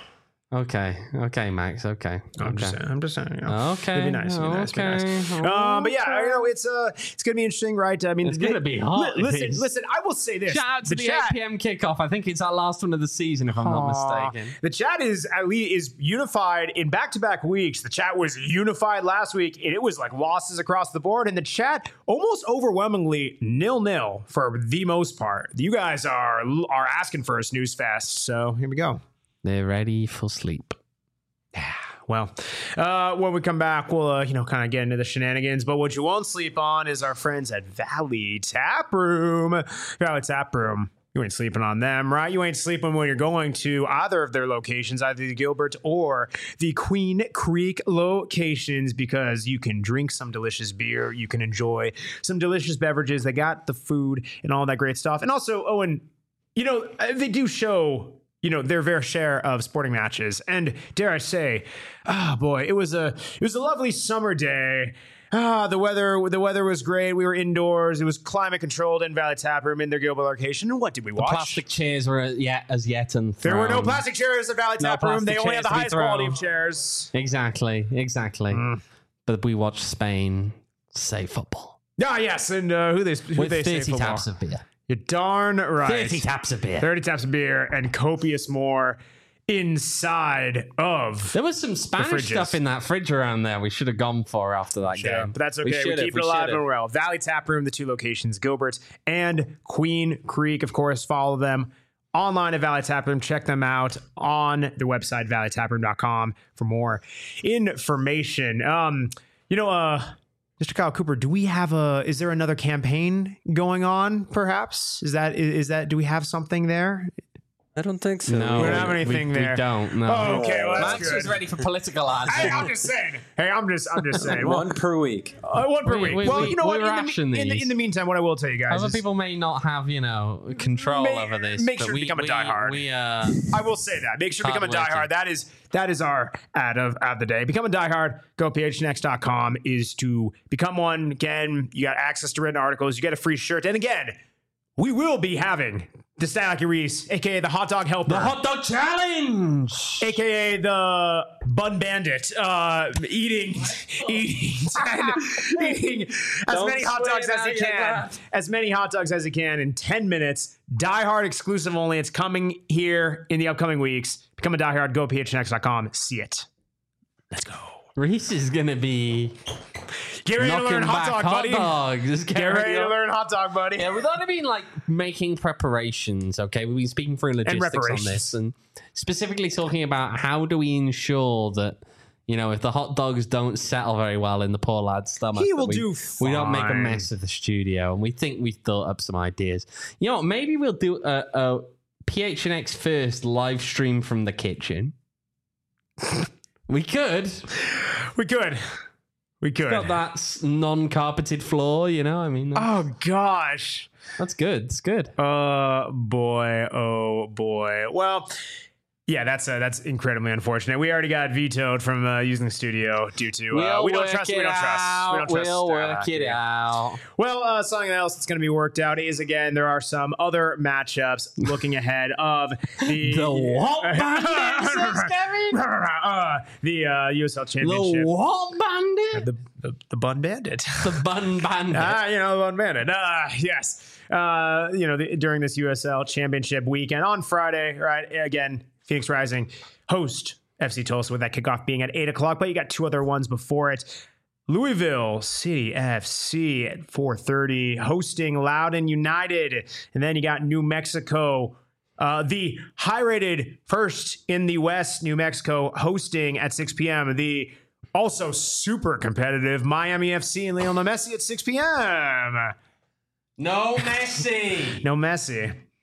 [SPEAKER 2] Okay, okay, Max. Okay,
[SPEAKER 1] I'm
[SPEAKER 2] okay.
[SPEAKER 1] just saying. I'm just saying. You know,
[SPEAKER 2] Okay,
[SPEAKER 1] It'd be nice. It'd be nice.
[SPEAKER 2] okay,
[SPEAKER 1] It'd be nice. Um, but yeah,
[SPEAKER 2] okay.
[SPEAKER 1] you know, it's uh, it's gonna be interesting, right? I mean,
[SPEAKER 2] It's gonna be hot,
[SPEAKER 1] li-
[SPEAKER 2] it
[SPEAKER 1] listen,
[SPEAKER 2] is.
[SPEAKER 1] listen. I will say this:
[SPEAKER 2] Shout out to the,
[SPEAKER 1] chat,
[SPEAKER 2] eight p.m. kickoff. I think it's our last one of the season, if I'm not
[SPEAKER 1] Aw.
[SPEAKER 2] mistaken.
[SPEAKER 1] The chat is at least is unified in back-to-back weeks. The chat was unified last week, and it was like losses across the board. And the chat almost overwhelmingly nil-nil for the most part. You guys are are asking for a snooze fest, so here we go.
[SPEAKER 2] They're ready for sleep.
[SPEAKER 1] Well, uh, when we come back, we'll uh, you know kind of get into the shenanigans. But what you won't sleep on is our friends at Valley Tap Room. Valley Tap Room. You ain't sleeping on them, right? You ain't sleeping when you're going to either of their locations, either the Gilbert or the Queen Creek locations, because you can drink some delicious beer. You can enjoy some delicious beverages. They got the food and all that great stuff. And also, Owen, you know, they do show, you know, their fair share of sporting matches. And dare I say, ah, boy, it was a it was a lovely summer day. Ah, the weather the weather was great. We were indoors. It was climate controlled in Valley Tap Room in their Gilbert location. And what did we
[SPEAKER 2] The
[SPEAKER 1] watch?
[SPEAKER 2] plastic chairs were yet as yet unthrown.
[SPEAKER 1] There were no plastic chairs at Valley
[SPEAKER 2] No
[SPEAKER 1] Tap Room. They
[SPEAKER 2] plastic
[SPEAKER 1] only had the
[SPEAKER 2] chairs to be
[SPEAKER 1] highest quality
[SPEAKER 2] thrown.
[SPEAKER 1] of chairs.
[SPEAKER 2] Exactly, exactly.
[SPEAKER 1] Mm.
[SPEAKER 2] But we watched Spain say football
[SPEAKER 1] Ah, yes, and uh, who they who
[SPEAKER 2] with
[SPEAKER 1] they say
[SPEAKER 2] thirty
[SPEAKER 1] football.
[SPEAKER 2] taps of beer.
[SPEAKER 1] You're darn right.
[SPEAKER 2] Thirty taps of beer.
[SPEAKER 1] thirty taps of beer and copious more inside of.
[SPEAKER 2] There was some Spanish
[SPEAKER 1] fridges.
[SPEAKER 2] stuff in that fridge around there. We should have gone for after that
[SPEAKER 1] Yeah,
[SPEAKER 2] game.
[SPEAKER 1] but that's okay. We,
[SPEAKER 2] should have,
[SPEAKER 1] keep it alive
[SPEAKER 2] should have.
[SPEAKER 1] and well. Valley Tap Room, the two locations, Gilbert and Queen Creek. Of course, follow them online at Valley Tap Room. Check them out on their website, valley tap room dot com, for more information. Um, you know, uh, Mister Kyle Cooper, do we have a? Is there another campaign going on? Perhaps is that is, is that? Do we have something there?
[SPEAKER 6] I don't think so.
[SPEAKER 2] No,
[SPEAKER 1] We don't have anything
[SPEAKER 2] we,
[SPEAKER 1] there.
[SPEAKER 2] We don't. No.
[SPEAKER 1] Oh, okay, well, that's
[SPEAKER 2] Max
[SPEAKER 1] good.
[SPEAKER 2] was ready for political ads.
[SPEAKER 1] Hey, I'm just saying. Hey, I'm just, I'm just saying. Well,
[SPEAKER 6] One per week.
[SPEAKER 1] uh, one per
[SPEAKER 2] We-
[SPEAKER 1] week.
[SPEAKER 2] we-
[SPEAKER 1] well,
[SPEAKER 2] we-
[SPEAKER 1] you know
[SPEAKER 2] we
[SPEAKER 1] what? In the,
[SPEAKER 2] ration
[SPEAKER 1] in, the,
[SPEAKER 2] these.
[SPEAKER 1] in the meantime, what I will tell you guys
[SPEAKER 2] Other
[SPEAKER 1] is,
[SPEAKER 2] people may not have, you know, control
[SPEAKER 1] May-
[SPEAKER 2] over this.
[SPEAKER 1] make
[SPEAKER 2] but
[SPEAKER 1] sure to
[SPEAKER 2] we,
[SPEAKER 1] become a
[SPEAKER 2] we,
[SPEAKER 1] diehard.
[SPEAKER 2] We, uh,
[SPEAKER 1] I will say that. Make sure to become a
[SPEAKER 2] Hardworking.
[SPEAKER 1] diehard. That is that is our ad of, of the day. Become a diehard. Go p h n x dot com is to become one. Again, you got access to written articles. You get a free shirt. And again, we will be having the Stanley Reese, a k a the Hot Dog Helper.
[SPEAKER 2] the hot dog challenge.
[SPEAKER 1] A K A the Bun Bandit, uh, eating, eating, eating as
[SPEAKER 6] Don't
[SPEAKER 1] many hot
[SPEAKER 6] sway
[SPEAKER 1] dogs
[SPEAKER 6] it
[SPEAKER 1] as he
[SPEAKER 6] out yet,
[SPEAKER 1] can,
[SPEAKER 6] Matt.
[SPEAKER 1] as many hot dogs as he can in ten minutes. Die Hard exclusive only. It's coming here in the upcoming weeks. Become a Die Hard. Go p h n x dot com. See it. Let's go.
[SPEAKER 2] Reese is gonna be
[SPEAKER 1] Get ready to
[SPEAKER 2] knocking
[SPEAKER 1] learn hot
[SPEAKER 2] back
[SPEAKER 1] dog,
[SPEAKER 2] hot
[SPEAKER 1] buddy.
[SPEAKER 2] dogs. Just
[SPEAKER 1] Get ready to
[SPEAKER 2] to
[SPEAKER 1] learn hot dog, buddy.
[SPEAKER 2] Yeah, we've only been like making preparations. Okay, we've been speaking through logistics on
[SPEAKER 1] reparations.
[SPEAKER 2] this, and specifically talking about how do we ensure that, you know, if the hot dogs don't settle very well in the poor lad's stomach,
[SPEAKER 1] He
[SPEAKER 2] that
[SPEAKER 1] will
[SPEAKER 2] we,
[SPEAKER 1] do
[SPEAKER 2] we don't make a
[SPEAKER 1] fine.
[SPEAKER 2] mess of the studio. And we think we've thought up some ideas. You know, maybe we'll do a, a P H N X first live stream from the kitchen. We could.
[SPEAKER 1] We could. We could.
[SPEAKER 2] Got that s- non-carpeted floor, you know. I mean, that's,
[SPEAKER 1] Oh gosh.
[SPEAKER 2] that's good. It's good.
[SPEAKER 1] Oh boy, oh boy. Well, yeah, that's uh, that's incredibly unfortunate. We already got vetoed from uh, using the studio due to uh,
[SPEAKER 2] We'll
[SPEAKER 1] we don't
[SPEAKER 2] work
[SPEAKER 1] trust.
[SPEAKER 2] it
[SPEAKER 1] We don't trust. We don't
[SPEAKER 2] out.
[SPEAKER 1] trust.
[SPEAKER 2] We'll
[SPEAKER 1] uh,
[SPEAKER 2] work it
[SPEAKER 1] yeah.
[SPEAKER 2] out.
[SPEAKER 1] Well, uh, something else that's going to be worked out is again there are some other matchups looking ahead of the
[SPEAKER 2] The what bandit, says Kevin?
[SPEAKER 1] uh, the uh, U S L Championship.
[SPEAKER 2] The what bandit?
[SPEAKER 1] The, the, the Bun Bandit.
[SPEAKER 2] The bun bandit.
[SPEAKER 1] Ah, you know, the Bun Bandit. Ah, yes. Uh, you know, the, during this U S L Championship weekend on Friday, right? Again, Phoenix Rising host F C Tulsa with that kickoff being at eight o'clock, but you got two other ones before it. Louisville City F C at four thirty hosting Loudoun United. And then you got New Mexico, uh, the high-rated first in the West, New Mexico, hosting at six p.m. The also super competitive Miami F C and Lionel Messi at six p.m.
[SPEAKER 2] No Messi.
[SPEAKER 1] No Messi.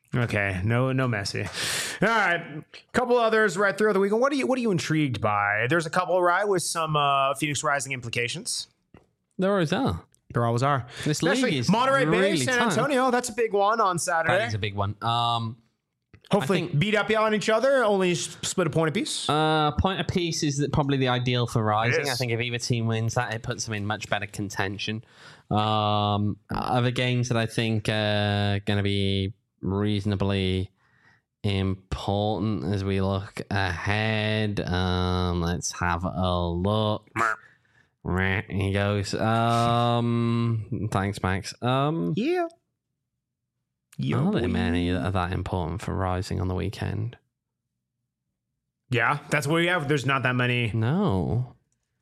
[SPEAKER 1] Okay, no, no Messi. All right, couple others right throughout the weekend. What are you, what are you intrigued by? There's a couple, right, with some uh, Phoenix Rising implications.
[SPEAKER 2] There always are.
[SPEAKER 1] There always are.
[SPEAKER 2] This league
[SPEAKER 1] Especially
[SPEAKER 2] is
[SPEAKER 1] Monterey Bay,
[SPEAKER 2] really
[SPEAKER 1] San
[SPEAKER 2] tight.
[SPEAKER 1] Antonio. That's a big one on Saturday.
[SPEAKER 2] That is a big one. Um,
[SPEAKER 1] Hopefully,
[SPEAKER 2] I think-
[SPEAKER 1] beat up on each other. Only split a point apiece.
[SPEAKER 2] Uh, point apiece is probably the ideal for Rising.
[SPEAKER 1] It is.
[SPEAKER 2] I think if either team wins that, it puts them in much better contention. Um, other games that I think are going to be reasonably important as we look ahead. Um, let's have a look. Here he goes. Um, thanks, Max. Um,
[SPEAKER 1] yeah. Yo,
[SPEAKER 2] are there
[SPEAKER 1] boy.
[SPEAKER 2] many that are that important for Rising on the weekend?
[SPEAKER 1] Yeah, that's what we have. There's not that many.
[SPEAKER 2] No.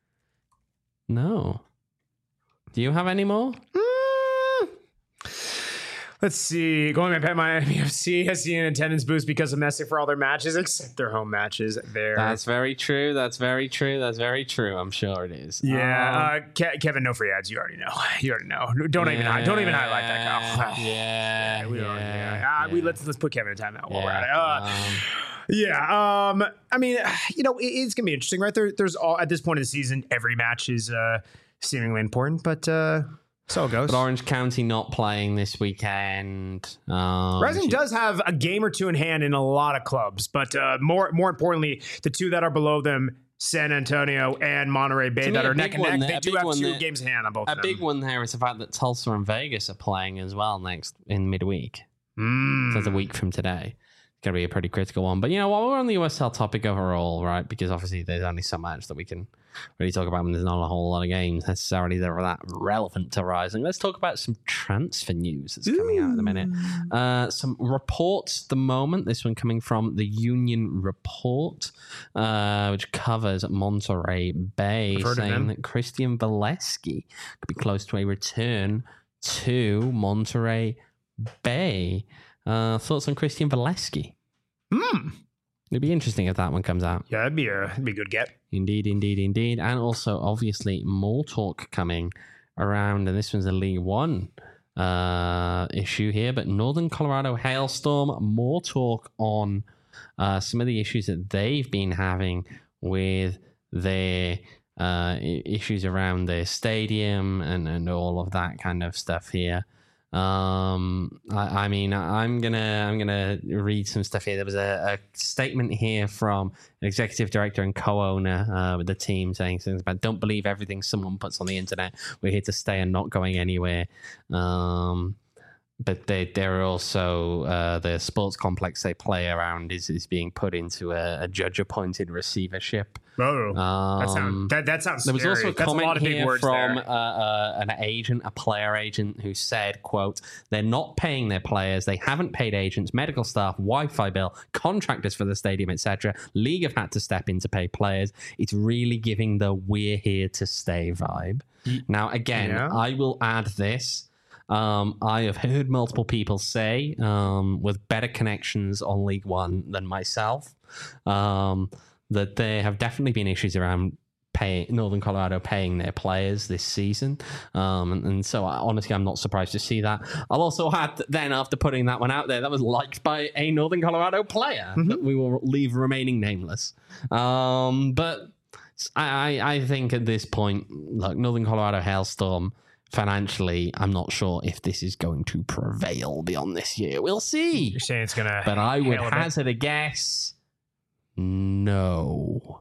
[SPEAKER 2] No. Do you have any more?
[SPEAKER 1] Mm. Let's see. Going by Miami F C has seen an attendance boost because of Messi for all their matches, except their home matches. There.
[SPEAKER 2] That's very true. That's very true. That's very true. I'm sure it is.
[SPEAKER 1] Yeah,
[SPEAKER 2] Um,
[SPEAKER 1] uh, Ke- Kevin, no free ads. You already know. You already know. Don't even. hi- Don't even highlight that, Kyle.
[SPEAKER 2] Yeah.
[SPEAKER 1] we don't.
[SPEAKER 2] yeah,
[SPEAKER 1] Yeah. Uh, we
[SPEAKER 2] yeah.
[SPEAKER 1] let's let's put Kevin in timeout while we're
[SPEAKER 2] Yeah,
[SPEAKER 1] at it. Uh,
[SPEAKER 2] um,
[SPEAKER 1] yeah. Um. I mean, you know, it, it's gonna be interesting, right? There, there's all at this point in the season, every match is uh, seemingly important, but uh, so it goes.
[SPEAKER 2] But Orange County not playing this weekend. Um,
[SPEAKER 1] Rising does have a game or two in hand in a lot of clubs, but uh, more more importantly, the two that are below them, San Antonio and Monterey Bay,
[SPEAKER 2] To me,
[SPEAKER 1] that
[SPEAKER 2] a
[SPEAKER 1] are
[SPEAKER 2] big
[SPEAKER 1] neck and
[SPEAKER 2] one
[SPEAKER 1] neck.
[SPEAKER 2] there-
[SPEAKER 1] They
[SPEAKER 2] a
[SPEAKER 1] do
[SPEAKER 2] big
[SPEAKER 1] have
[SPEAKER 2] one
[SPEAKER 1] two
[SPEAKER 2] there-
[SPEAKER 1] games in hand on both
[SPEAKER 2] A
[SPEAKER 1] of them.
[SPEAKER 2] big one there is the fact that Tulsa and Vegas are playing as well next in midweek.
[SPEAKER 1] Mm.
[SPEAKER 2] So it's a week from today. It's going to be a pretty critical one. But, you know, while we're on the U S L topic overall, right, because obviously there's only so much that we can really talk about when there's not a whole lot of games necessarily that are that relevant to Rising. Let's talk about some transfer news that's coming out in a minute. Uh, some reports at the moment. This one coming from the Union Report, uh, which covers Monterey Bay,
[SPEAKER 1] I've heard of
[SPEAKER 2] saying
[SPEAKER 1] them.
[SPEAKER 2] that Christian Valeski could be close to a return to Monterey Bay. Uh, thoughts on Christian Valeski?
[SPEAKER 1] Hmm.
[SPEAKER 2] It'd be interesting if that one comes out.
[SPEAKER 1] Yeah, that'd be a that'd be a good get.
[SPEAKER 2] Indeed, indeed, indeed. And also, obviously, more talk coming around, and this one's a League One uh, issue here, but Northern Colorado Hailstorm, more talk on uh, some of the issues that they've been having with their uh, i- issues around their stadium and, and all of that kind of stuff here. Um, I, I mean, I'm gonna I'm gonna read some stuff here. There was a, a statement here from an executive director and co-owner uh, with the team saying things about don't believe everything someone puts on the internet. We're here to stay and not going anywhere. Um, but they they're also uh, the sports complex they play around is is being put into a, a judge appointed receivership.
[SPEAKER 1] Oh,
[SPEAKER 2] Um,
[SPEAKER 1] that sounds that, that sounds.
[SPEAKER 2] there was
[SPEAKER 1] scary.
[SPEAKER 2] also a
[SPEAKER 1] That's
[SPEAKER 2] comment
[SPEAKER 1] a lot of big
[SPEAKER 2] here
[SPEAKER 1] words
[SPEAKER 2] from
[SPEAKER 1] there.
[SPEAKER 2] uh, uh, an agent, a player agent, who said, quote, they're not paying their players. They haven't paid agents, medical staff, Wi-Fi bill, contractors for the stadium, et cetera. League have had to step in to pay players. It's really giving the we're here to stay vibe. Now, again,
[SPEAKER 1] Yeah.
[SPEAKER 2] I will add this. Um, I have heard multiple people say, um, with better connections on League One than myself, um, that there have definitely been issues around pay Northern Colorado paying their players this season. Um, and, and so I, honestly, I'm not surprised to see that. I'll also add that then after putting that one out there, that was liked by a Northern Colorado player that we will leave remaining nameless. Um, but I, I I think at this point, look, Northern Colorado Hailstorm, financially, I'm not sure if this is going to prevail beyond this year. We'll see.
[SPEAKER 1] You're saying it's gonna.
[SPEAKER 2] But I would
[SPEAKER 1] hail a bit.
[SPEAKER 2] hazard a guess. No.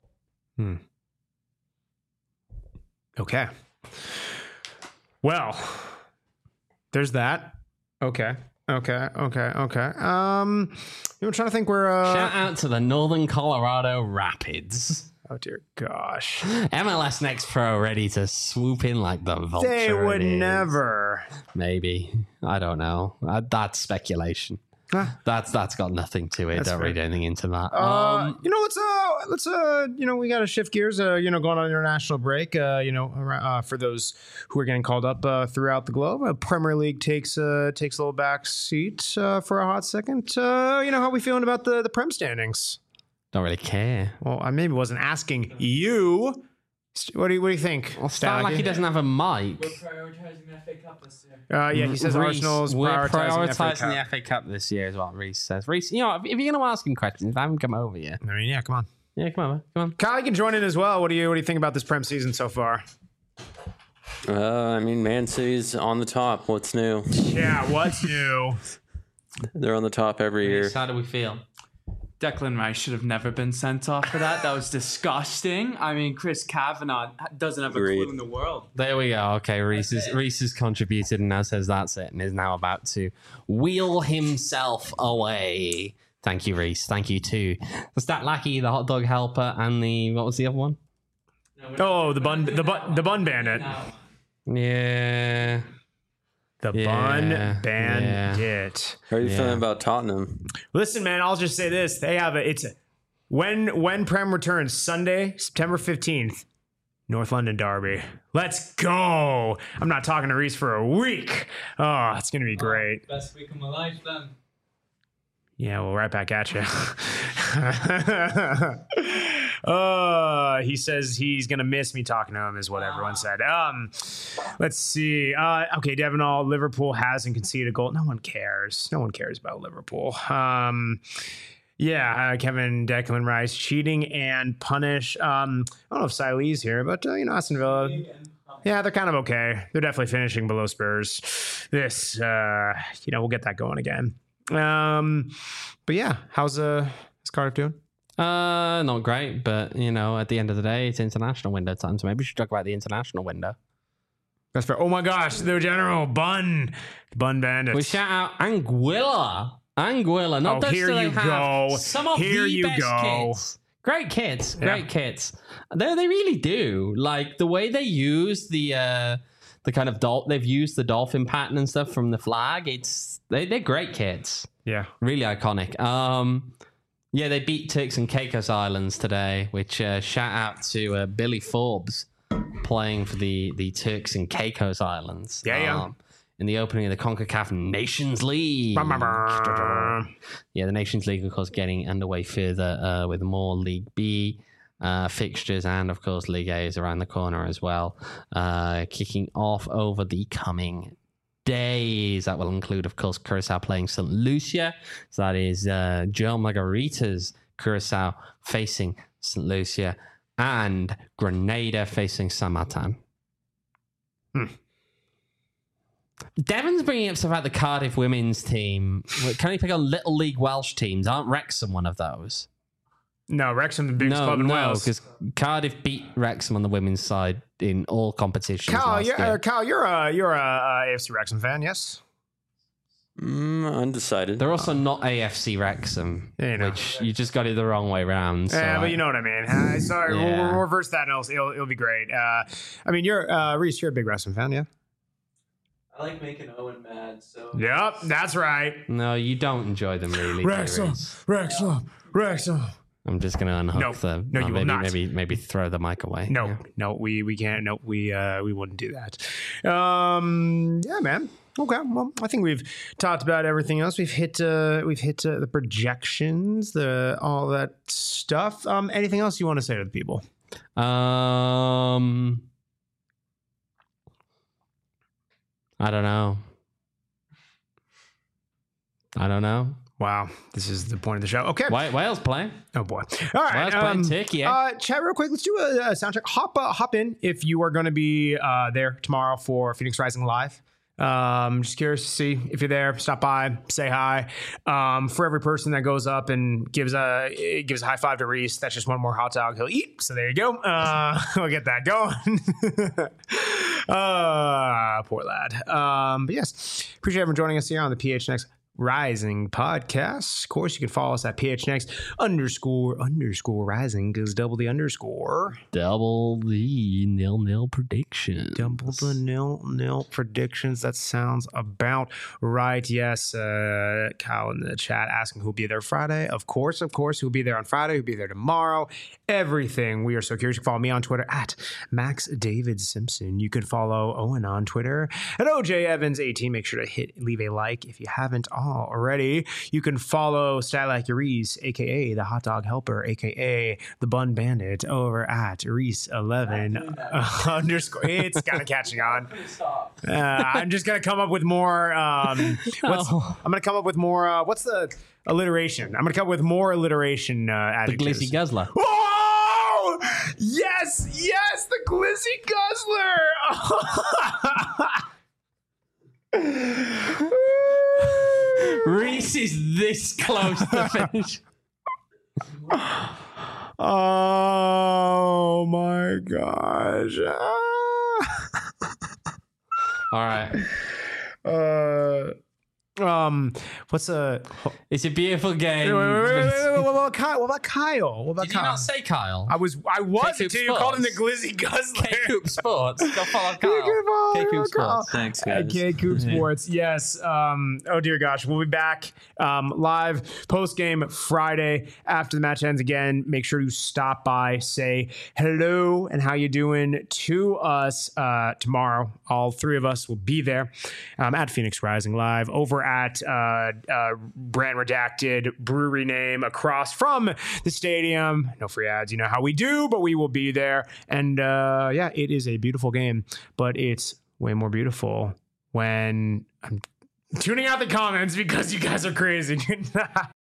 [SPEAKER 1] Okay. Well, there's that. Okay. Okay. Okay. Okay. Um, I'm trying to think where. Uh,
[SPEAKER 2] Shout out to the Northern Colorado Rapids.
[SPEAKER 1] oh dear gosh.
[SPEAKER 2] M L S Next Pro ready to swoop in like the vulture.
[SPEAKER 1] They would
[SPEAKER 2] it is.
[SPEAKER 1] never.
[SPEAKER 2] Maybe. I don't know. Uh, that's speculation.
[SPEAKER 1] Ah.
[SPEAKER 2] That's that's got nothing to it.
[SPEAKER 1] That's
[SPEAKER 2] Don't
[SPEAKER 1] fair.
[SPEAKER 2] read anything into that.
[SPEAKER 1] Uh,
[SPEAKER 2] um,
[SPEAKER 1] you know, let's uh, let's uh, you know, we got to shift gears. Uh, you know, going on international break. Uh, you know, ar- uh, for those who are getting called up uh, throughout the globe, uh, Premier League takes uh takes a little back seat uh, for a hot second. Uh, you know, how we feeling about the the Prem standings?
[SPEAKER 2] don't really care.
[SPEAKER 1] Well, I maybe wasn't asking you What do you What do you think?
[SPEAKER 2] Well, Stat like he doesn't have a mic.
[SPEAKER 5] We're prioritizing the F A Cup this year.
[SPEAKER 1] Uh, yeah, he says
[SPEAKER 2] Reece,
[SPEAKER 1] Arsenal's
[SPEAKER 2] we're
[SPEAKER 1] prioritizing,
[SPEAKER 2] prioritizing
[SPEAKER 1] the F A
[SPEAKER 2] the
[SPEAKER 1] Cup.
[SPEAKER 2] F A Cup this year is what Reese says. Reese, you know, if you're going to ask him questions, have him come over here.
[SPEAKER 1] I mean, yeah, come on.
[SPEAKER 2] Yeah, come on, come on.
[SPEAKER 1] Kyle, you can join in as well. What do you What do you think about this Prem season so far?
[SPEAKER 6] Uh, I mean, Man City's on the top. What's new?
[SPEAKER 1] Yeah, what's new?
[SPEAKER 6] They're on the top every year.
[SPEAKER 2] Reece, how do we feel?
[SPEAKER 5] Declan Rice should have never been sent off for that. That was disgusting. I mean, Chris Kavanagh doesn't have a
[SPEAKER 6] Agreed.
[SPEAKER 5] clue in the world.
[SPEAKER 2] There we go. Okay, Reese has, Reese has contributed and now says that's it and is now about to wheel himself away. Thank you, Reese. Thank you too. The Stat Lackey, the Hot Dog Helper, and the, what was the other one?
[SPEAKER 1] Oh, the bun, the bun, the bun bandit,
[SPEAKER 2] Yeah.
[SPEAKER 1] the
[SPEAKER 2] Yeah,
[SPEAKER 1] bun
[SPEAKER 2] yeah.
[SPEAKER 1] bandit.
[SPEAKER 6] How are you
[SPEAKER 2] Yeah.
[SPEAKER 6] feeling about Tottenham?
[SPEAKER 1] Listen, man, I'll just say this: they have a. It's a, when when Prem returns Sunday, September fifteenth, North London derby. Let's go! I'm not talking to Reese for a week. Oh, it's gonna be great.
[SPEAKER 5] Best week of my life, then.
[SPEAKER 1] Yeah, well, right back at you. uh, he says he's gonna miss me talking to him, is what everyone said. Um, let's see. Uh, okay, Devon All, Liverpool hasn't conceded a goal. No one cares. No one cares about Liverpool. Um, yeah, uh, Kevin Declan Rice cheating and punish. Um, I don't know if Sile's here, but uh, you know, Aston Villa. Yeah, they're kind of okay. They're definitely finishing below Spurs. This, uh, you know, we'll get that going again. Um, but yeah, how's uh, how's Cardiff doing?
[SPEAKER 2] Uh, not great, but you know, at the end of the day, it's international window time, so maybe we should talk about the international window.
[SPEAKER 1] That's fair. Oh my gosh, the general bun, bun bandits.
[SPEAKER 2] We shout out Anguilla, Anguilla. Not
[SPEAKER 1] Oh,
[SPEAKER 2] just
[SPEAKER 1] here
[SPEAKER 2] do they
[SPEAKER 1] you
[SPEAKER 2] have
[SPEAKER 1] go.
[SPEAKER 2] some of
[SPEAKER 1] Here
[SPEAKER 2] the
[SPEAKER 1] you
[SPEAKER 2] best
[SPEAKER 1] go.
[SPEAKER 2] kids. Great kids, great
[SPEAKER 1] Yeah.
[SPEAKER 2] kids. They they really do like the way they use the uh the kind of dol- they've used the dolphin pattern and stuff from the flag. It's they they're great kids.
[SPEAKER 1] Yeah.
[SPEAKER 2] Really iconic. Um, yeah, they beat Turks and Caicos Islands today, which uh, shout out to uh, Billy Forbes playing for the, the Turks and Caicos Islands.
[SPEAKER 1] Yeah, yeah.
[SPEAKER 2] um, in the opening of the CONCACAF Nations League. Yeah, the Nations League, of course, getting underway further uh, with more League B uh, fixtures, and of course, League A is around the corner as well. Uh, kicking off over the coming days. That will include, of course, Curacao playing Saint Lucia. So that is uh, Joe Margarita's Curacao facing Saint Lucia, and Grenada facing San Martin.
[SPEAKER 1] Hmm.
[SPEAKER 2] Devon's bringing up stuff about the Cardiff women's team. Can he pick on Little League Welsh teams? Aren't Wrexham one of those?
[SPEAKER 1] No, Wrexham, the biggest
[SPEAKER 2] no,
[SPEAKER 1] club in
[SPEAKER 2] no,
[SPEAKER 1] Wales.
[SPEAKER 2] because Cardiff beat Wrexham on the women's side in all competitions.
[SPEAKER 1] Cal,
[SPEAKER 2] last
[SPEAKER 1] you're,
[SPEAKER 2] year.
[SPEAKER 1] uh, Cal, you're a you're a, uh, A F C Wrexham fan, yes?
[SPEAKER 6] Mm, undecided.
[SPEAKER 2] They're also not A F C Wrexham,
[SPEAKER 1] Yeah, you know.
[SPEAKER 2] which you just got it the wrong way round. So
[SPEAKER 1] Yeah, but
[SPEAKER 2] I-
[SPEAKER 1] you know what I mean. Uh, sorry, we'll,
[SPEAKER 2] Yeah.
[SPEAKER 1] we'll reverse that, and it'll, it'll, it'll be great. Uh, I mean, you're uh, Reese. You're a big Wrexham fan, yeah?
[SPEAKER 5] I like making Owen mad, so.
[SPEAKER 1] Yep, that's right.
[SPEAKER 2] No, you don't enjoy them really. do you,
[SPEAKER 1] Wrexham,
[SPEAKER 2] Reece?
[SPEAKER 1] Wrexham, Wrexham.
[SPEAKER 2] I'm just going to unhook
[SPEAKER 1] No,
[SPEAKER 2] the.
[SPEAKER 1] no, you
[SPEAKER 2] oh,
[SPEAKER 1] will
[SPEAKER 2] maybe,
[SPEAKER 1] not.
[SPEAKER 2] Maybe, maybe throw the mic away.
[SPEAKER 1] No,
[SPEAKER 2] Yeah.
[SPEAKER 1] no, we we can't. No, we uh, we wouldn't do that. Um, yeah, man. Okay, well, I think we've talked about everything else. We've hit uh, we've hit uh, the projections, the all that stuff. Um, anything else you want to say to the people?
[SPEAKER 2] Um, I don't know. I don't know.
[SPEAKER 1] Wow, this is the point of the show. Okay.
[SPEAKER 2] Why Wales playing?
[SPEAKER 1] Oh boy! All right,
[SPEAKER 2] Wales playing
[SPEAKER 1] um,
[SPEAKER 2] Turkey. Eh?
[SPEAKER 1] Uh, chat real quick. Let's do a, a sound check. Hop uh, hop in if you are going to be uh, there tomorrow for Phoenix Rising Live. Um, just curious to see if you're there. Stop by, say hi. Um, for every person that goes up and gives a gives a high five to Reese, that's just one more hot dog he'll eat. So there you go. Uh, we'll get that going. uh, poor lad. Um, but yes, appreciate everyone joining us here on the P H N X Rising podcast. Of course, you can follow us at P H N X underscore underscore rising because double the underscore.
[SPEAKER 2] Double the nil nil prediction.
[SPEAKER 1] Double the nil nil predictions. That sounds about right. Yes, uh, Kyle in the chat asking who'll be there Friday. Of course, of course, who'll be there on Friday, who'll be there tomorrow. Everything. We are so curious. You can follow me on Twitter at Max David Simpson. You can follow Owen on Twitter at O J Evans eighteen. Make sure to hit leave a like if you haven't already. You can follow Style Like Reese, aka the Hot Dog Helper, aka the Bun Bandit, over at Reese eleven underscore. It's kind of catching on. Uh, I'm just gonna come up with more. Um, what's,
[SPEAKER 2] Oh.
[SPEAKER 1] I'm gonna come up with more. Uh, what's the alliteration? I'm gonna come up with more alliteration uh,
[SPEAKER 2] The
[SPEAKER 1] adjectives.
[SPEAKER 2] Glizzy Guzzler.
[SPEAKER 1] Oh yes, yes, the Glizzy Guzzler.
[SPEAKER 2] Reese is this close to finish.
[SPEAKER 1] Oh my gosh.
[SPEAKER 2] All right.
[SPEAKER 1] Uh, um, what's a?
[SPEAKER 2] It's a beautiful game.
[SPEAKER 1] Wait, wait, wait, wait, wait, wait, what about Kyle? What about Kyle? What about
[SPEAKER 2] Did you
[SPEAKER 1] Kyle?
[SPEAKER 2] not say Kyle?
[SPEAKER 1] I was, I was
[SPEAKER 2] K-Coop
[SPEAKER 1] until you called him the
[SPEAKER 2] Sports.
[SPEAKER 1] Glizzy Guzzler.
[SPEAKER 2] K-Coop Sports. Go follow
[SPEAKER 1] You
[SPEAKER 2] Kyle.
[SPEAKER 1] can follow
[SPEAKER 2] K-Coop
[SPEAKER 1] Kyle.
[SPEAKER 2] Sports.
[SPEAKER 6] Thanks,
[SPEAKER 1] Uh,
[SPEAKER 6] guys.
[SPEAKER 1] K-Coop Sports, yes. Um, oh dear gosh, we'll be back um, live post game Friday after the match ends. Again, make sure to stop by, say hello and how you doing to us uh, tomorrow. All three of us will be there um, at Phoenix Rising Live over at uh, uh, Brand Redacted brewery name across from the stadium. No free ads, you know how we do, but we will be there. And uh, yeah, it is a beautiful game, but it's way more beautiful when I'm tuning out the comments because you guys are crazy.